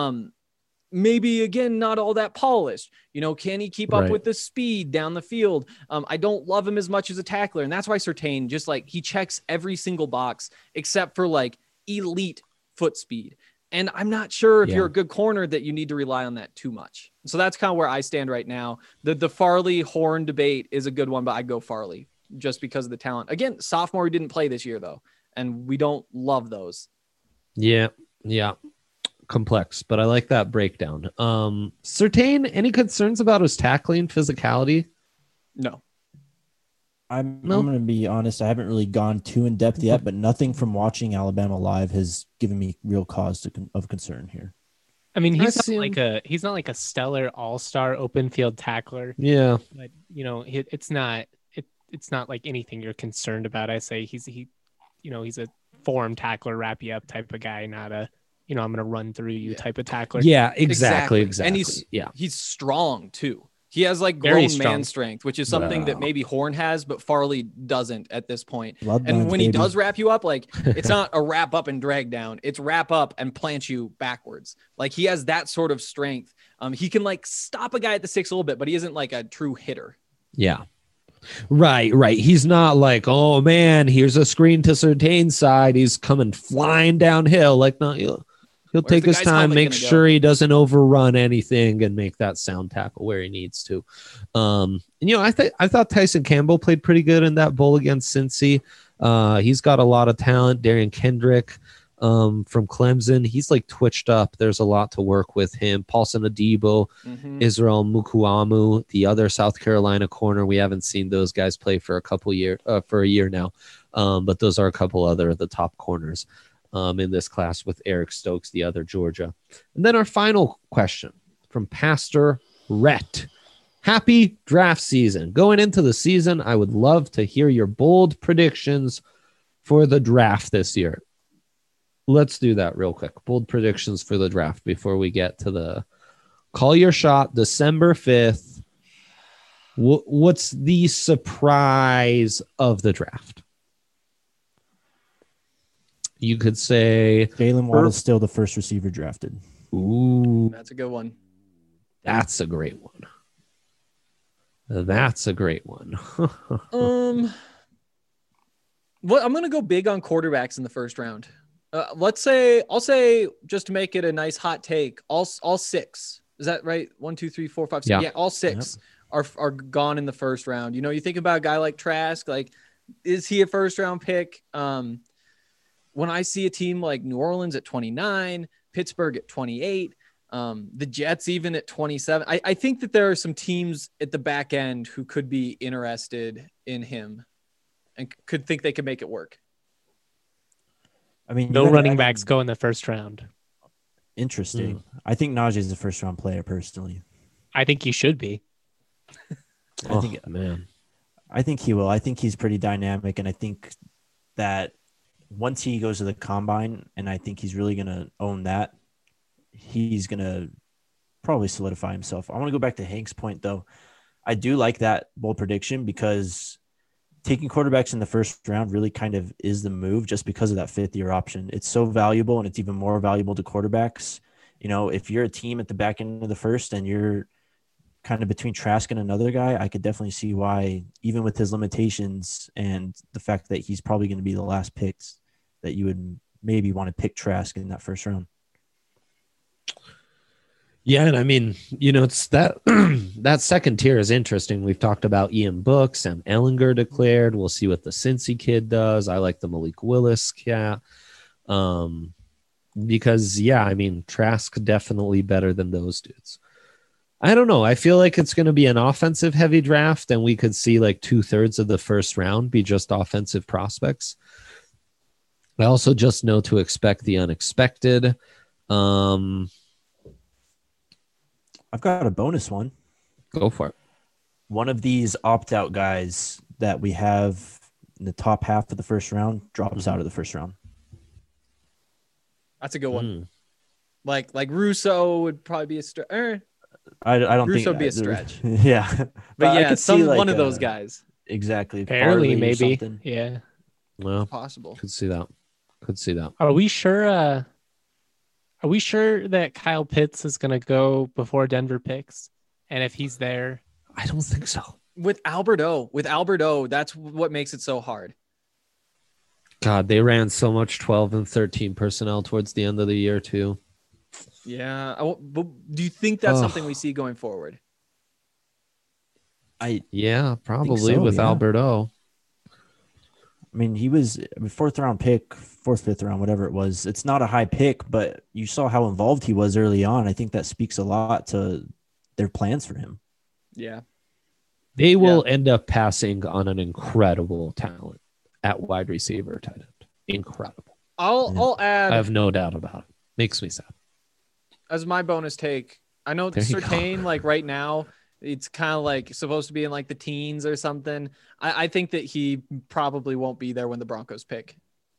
Maybe again, not all that polished, you know, can he keep up with the speed down the field? I don't love him as much as a tackler. And that's why Surtain, just like, he checks every single box except for like elite foot speed. And I'm not sure if you're a good corner that you need to rely on that too much. So that's kind of where I stand right now. The Farley Horn debate is a good one, but I go Farley just because of the talent. Again, sophomore, who didn't play this year though, and we don't love those. Yeah. Complex, but I like that breakdown. Surtain, any concerns about his tackling physicality? No. I'm going to be honest. I haven't really gone too in depth yet, but nothing from watching Alabama live has given me real cause of concern here. I mean, he's not like a stellar all-star open field tackler. Yeah, but you know, it's not like anything you're concerned about. I say he's a form tackler, wrap you up type of guy, not a, you know, I'm going to run through you type of tackler. Yeah, exactly. And he's strong too. He has like grown man strength, which is something that maybe Horn has, but Farley doesn't at this point. And when he does wrap you up, like, it's not a wrap up and drag down. It's wrap up and plant you backwards. Like, he has that sort of strength. He can like stop a guy at the 6 a little bit, but he isn't like a true hitter. Yeah. Right. He's not like, oh man, here's a screen to Surtain's side. He's coming flying downhill. Like, no, he'll take his time, make sure he doesn't overrun anything, and make that sound tackle where he needs to. And you know, I thought Tyson Campbell played pretty good in that bowl against Cincy. He's got a lot of talent. Darian Kendrick from Clemson, he's like twitched up. There's a lot to work with him. Paulson Adebo, Israel Mukuamu, the other South Carolina corner. We haven't seen those guys play for a year now, but those are a couple other of the top corners. in this class with Eric Stokes, the other Georgia. And then our final question from Pastor Rhett. Happy draft season. Going into the season, I would love to hear your bold predictions for the draft this year. Let's do that real quick. Bold predictions for the draft before we get to the call your shot, December 5th. What's the surprise of the draft? You could say Jalen Waddle's still the first receiver drafted. Ooh, That's a good one. that's a great one. That's a great one. What I'm gonna go big on quarterbacks in the first round. I'll say just to make it a nice hot take, all six. Is that right? 1, 2, 3, 4, 5, 6. Yeah. Yeah, all six are gone in the first round. You know, you think about a guy like Trask, like, is he a first round pick? When I see a team like New Orleans at 29, Pittsburgh at 28, the Jets even at 27, I think that there are some teams at the back end who could be interested in him and could think they could make it work. I mean, No you gotta running add backs in- go in the first round. Interesting. I think Najee is a first round player personally. I think he should be. I think man. I think he will. I think he's pretty dynamic, and I think that once he goes to the combine, and I think he's really going to own that, he's going to probably solidify himself. I want to go back to Hank's point, though. I do like that bold prediction because taking quarterbacks in the first round really kind of is the move just because of that fifth-year option. It's so valuable, and it's even more valuable to quarterbacks. You know, if you're a team at the back end of the first and you're kind of between Trask and another guy, I could definitely see why, even with his limitations and the fact that he's probably going to be the last picks, that you would maybe want to pick Trask in that first round. Yeah, and I mean, you know, it's that that second tier is interesting. We've talked about Ian Book, Sam Ellinger declared. We'll see what the Cincy kid does. I like the Malik Willis cat. Because I mean, Trask definitely better than those dudes. I don't know. I feel like it's going to be an offensive heavy draft, and we could see like 2/3 of the first round be just offensive prospects. I also just know to expect the unexpected. I've got a bonus one. Go for it. One of these opt-out guys that we have in the top half of the first round drops out of the first round. That's a good one. Like Russo would probably be a stretch. I don't Russo think would be a stretch. Yeah, But I yeah, could see, like, one of those guys. Exactly. Barely, Farley or maybe. something. Yeah. Well, Possible. could see that. Could see that. Are we sure? Are we sure that Kyle Pitts is going to go before Denver picks? And if he's there, I don't think so. With Albert O, that's what makes it so hard. God, they ran so much 12 and 13 personnel towards the end of the year too. Yeah. But do you think that's something we see going forward? Yeah, probably so, with yeah. Alberto. I mean, he was a fourth, fifth round, whatever it was. It's not a high pick, but you saw how involved he was early on. I think that speaks a lot to their plans for him. Yeah. They will end up passing on an incredible talent at wide receiver tight end. Incredible. I'll add I have no doubt about it. Makes me sad. as my bonus take. I know There you go. Surtain, like right now, it's kind of like supposed to be in like the teens or something. I think that he probably won't be there when the Broncos pick.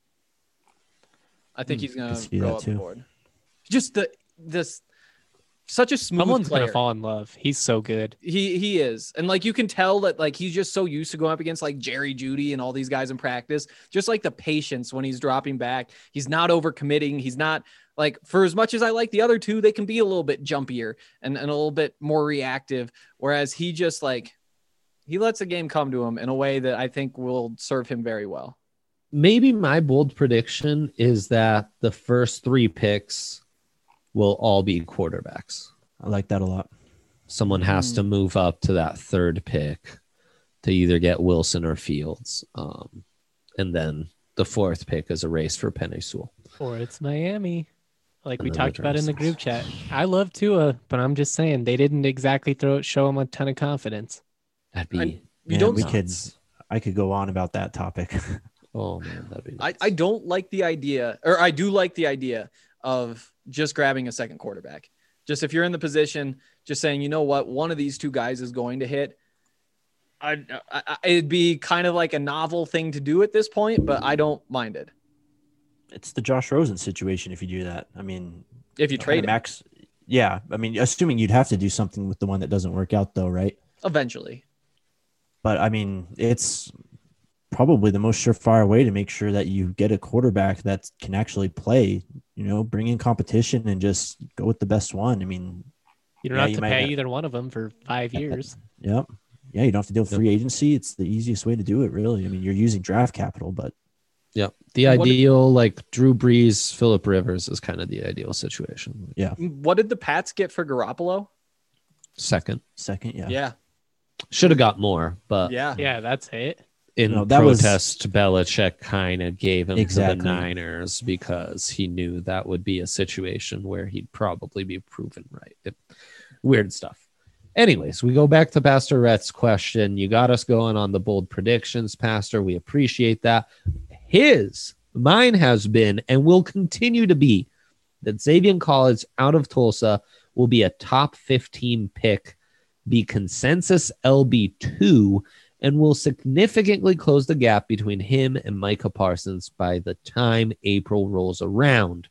I think he's gonna see go that up too. the board. Just this such a smooth someone's player. going to fall in love. He's so good. He is. And like you can tell that like he's just so used to going up against like Jerry Jeudy and all these guys in practice. Just like the patience when he's dropping back. He's not overcommitting. He's not like, for as much as I like the other two, they can be a little bit jumpier and a little bit more reactive. Whereas he just like he lets the game come to him in a way that I think will serve him very well. Maybe my bold prediction is that the first 3 picks will all be quarterbacks. I like that a lot. Someone has to move up to that 3rd pick to either get Wilson or Fields. And then the 4th pick is a race for Penei Sewell. Or it's Miami, like we And then talked about in the the group chat. I love Tua, but I'm just saying they didn't exactly show him a ton of confidence. That'd be You don't I could go on about that topic. Oh man, that'd be I don't like the idea, or I do like the idea of just grabbing a second quarterback. Just if you're in the position, just saying, you know what, one of these two guys is going to hit. It'd be kind of like a novel thing to do at this point, but I don't mind it. It's the Josh Rosen situation if you do that. I mean, If you trade him, Max, yeah. I mean, assuming you'd have to do something with the one that doesn't work out, though, right? eventually. But I mean, it's probably the most surefire way to make sure that you get a quarterback that can actually play. You know, bring in competition and just go with the best one. I mean, You don't Yeah, have you to might pay have- either one of them for 5 years. yep. Yeah, you don't have to deal with free agency. It's the easiest way to do it, really. I mean, you're using draft capital, but Yep. The What- ideal, like Drew Brees, Phillip Rivers is kind of the ideal situation. What did the Pats get for Garoppolo? Second. second, yeah. Yeah. Should have got more, but Yeah. Yeah, that's it. in No, that was- protest, Belichick kind of gave him to Exactly. the Niners because he knew that would be a situation where he'd probably be proven right. Weird stuff. Anyways, we go back to Pastor Rhett's question. You got us going on the bold predictions, Pastor. We appreciate that. Mine has been and will continue to be that Xavier Collins out of Tulsa will be a top 15 pick, be consensus LB2, and will significantly close the gap between him and Micah Parsons by the time April rolls around.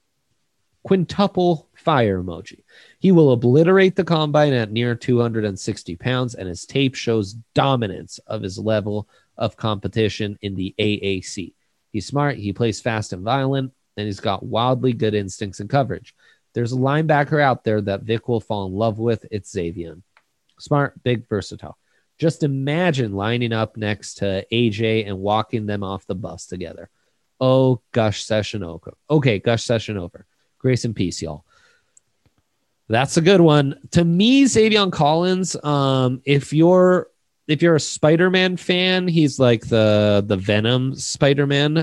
Quintuple fire emoji. He will obliterate the combine at near 260 pounds, and his tape shows dominance of his level of competition in the AAC. He's smart, he plays fast and violent, and he's got wildly good instincts and coverage. There's a linebacker out there that Vic will fall in love with. It's Xavier. Smart, big, versatile. Just imagine lining up next to AJ and walking them off the bus together. Oh, Gush session over. Okay, Gush session over. Grace and peace, y'all. That's a good one. To me, Xavier Collins, if you're a Spider-Man fan, he's like the Venom Spider-Man.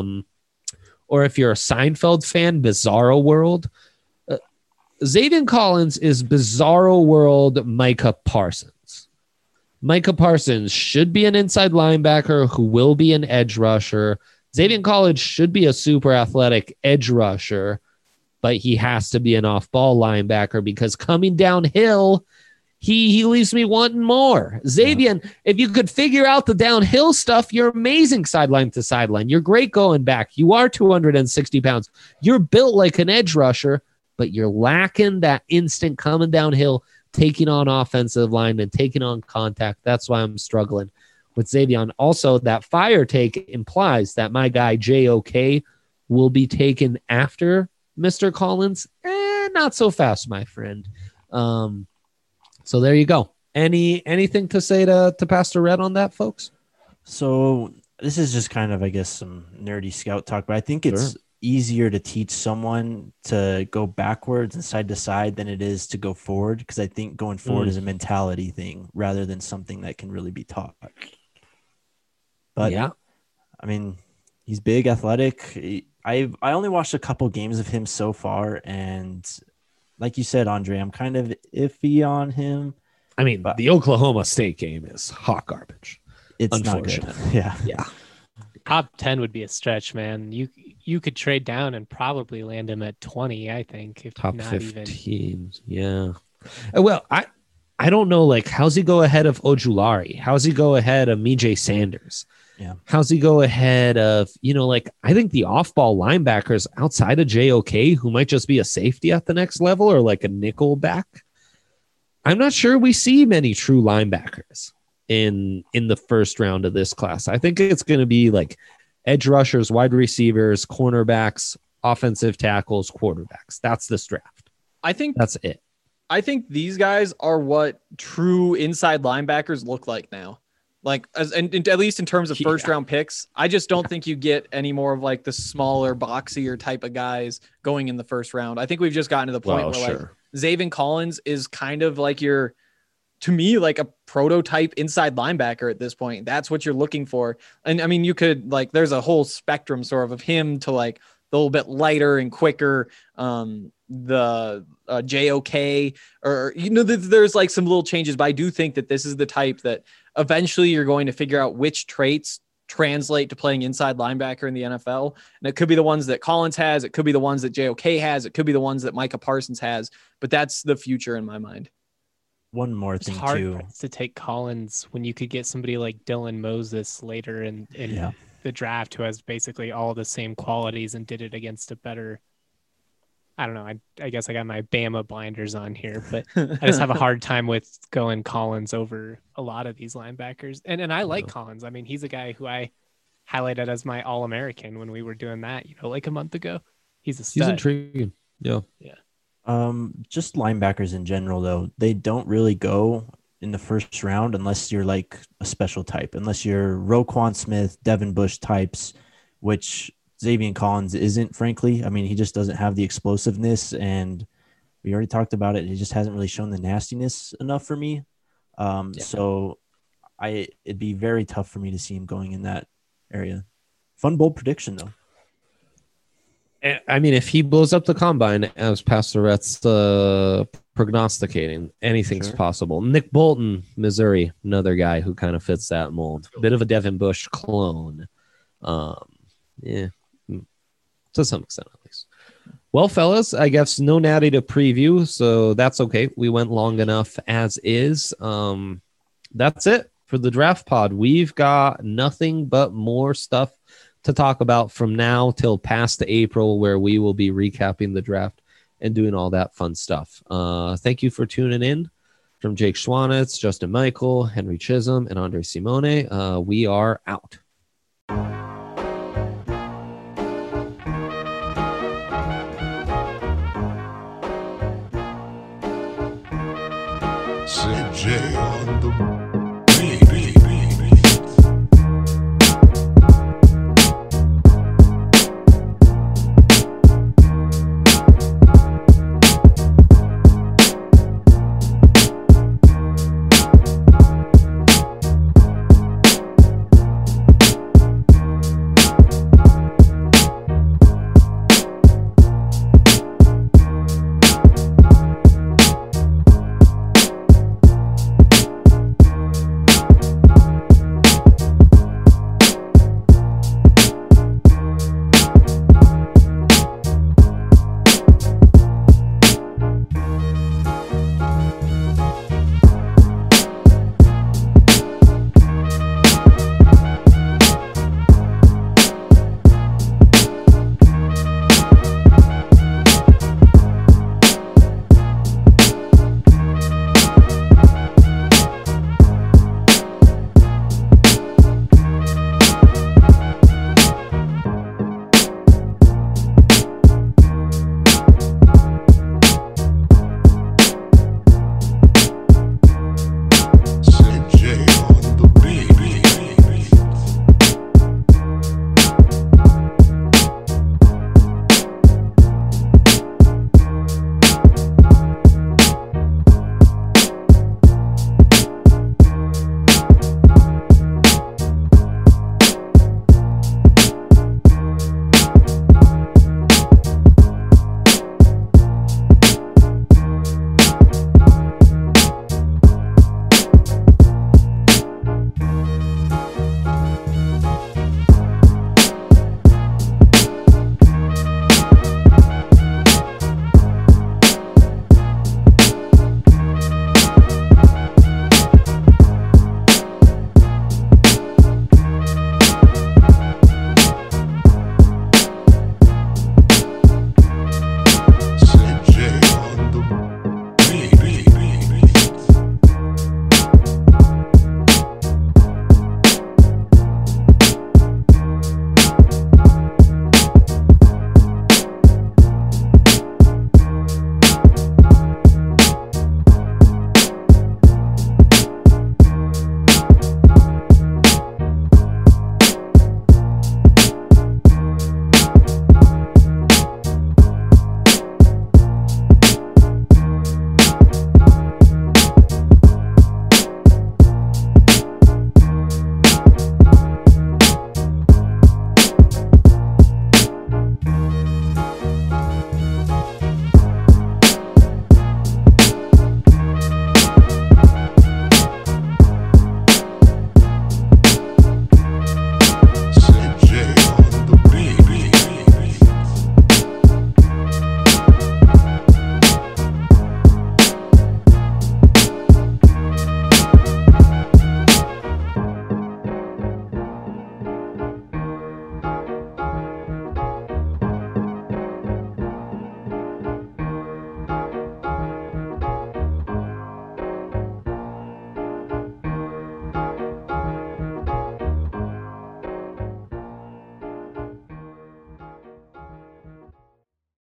Or if you're a Seinfeld fan, Bizarro World. Xavier Collins is Bizarro World Micah Parsons. Micah Parsons should be an inside linebacker who will be an edge rusher. Xavier Collins should be a super athletic edge rusher, but he has to be an off-ball linebacker because coming downhill, he leaves me wanting more. Xavier, if you could figure out the downhill stuff, you're amazing sideline to sideline. You're great going back. You are 260 pounds. You're built like an edge rusher, but you're lacking that instant coming downhill, taking on offensive line and taking on contact. That's why I'm struggling with Xavier. Also, that fire take implies that my guy JOK will be taken after Mr. Collins. Not so fast, my friend. So there you go. Anything to say to Pastor Red on that, folks? So this is just kind of, I guess, some nerdy scout talk, but I think it's easier to teach someone to go backwards and side to side than it is to go forward, because I think going forward is a mentality thing rather than something that can really be taught. But yeah, I mean, he's big, athletic. I only watched a couple games of him so far, and like you said, Andre, I'm kind of iffy on him. I mean, But- the Oklahoma State game is hot garbage. It's not good. Unfortunate. Yeah. Yeah. Top 10 would be a stretch, man. You could trade down and probably land him at 20, I think, if Top not 15. Yeah. Well, I don't know, like, how's he go ahead of Ojulari? How's he go ahead of Mijay Sanders? Yeah. How's he go ahead of, like, I think the off-ball linebackers outside of JOK, who might just be a safety at the next level or like a nickel back. I'm not sure we see many true linebackers in the first round of this class. I think it's going to be like edge rushers, wide receivers, cornerbacks, offensive tackles, quarterbacks. That's this draft. I think That's it. I think these guys are what true inside linebackers look like now. Like, and at least in terms of first round picks, I just don't think you get any more of like the smaller, boxier type of guys going in the first round. I think we've just gotten to the point where like Xavier Collins is kind of like to me, like a prototype inside linebacker at this point. That's what you're looking for. And I mean, you could like, there's a whole spectrum sort of him to like a little bit lighter and quicker. The JOK or, there's like some little changes, but I do think that this is the type that eventually you're going to figure out which traits translate to playing inside linebacker in the NFL. And it could be the ones that Collins has. It could be the ones that JOK has. It could be the ones that Micah Parsons has. But that's the future in my mind. One more It's thing hard too. to take Collins when you could get somebody like Dylan Moses later in Yeah. the draft who has basically all the same qualities and did it against a better. I don't know. I guess I got my Bama blinders on here, but I just have a hard time with going Collins over a lot of these linebackers. And I like Collins. I mean, he's a guy who I highlighted as my All-American when we were doing that, like a month ago. He's a stud. He's intriguing. Yeah. Just linebackers in general, though, they don't really go in the first round unless you're like a special type, unless you're Roquan Smith, Devin Bush types, which Xavier Collins isn't, frankly. I mean, he just doesn't have the explosiveness, and we already talked about it. He just hasn't really shown the nastiness enough for me. So it'd be very tough for me to see him going in that area. Fun, bold prediction, though. I mean, if he blows up the combine, as Pastor Rhett's prognosticating, anything's Sure. possible. Nick Bolton, Missouri, another guy who kind of fits that mold. Bit of a Devin Bush clone. Yeah, to some extent at least. Well, fellas, I guess no Natty to preview, so that's okay. We went long enough as is. That's it for the draft pod. We've got nothing but more stuff to talk about from now till past April, where we will be recapping the draft and doing all that fun stuff. Thank you for tuning in. From Jake Schwanitz, Justin Michael, Henry Chisholm, and Andre Simone, we are out. CJ on the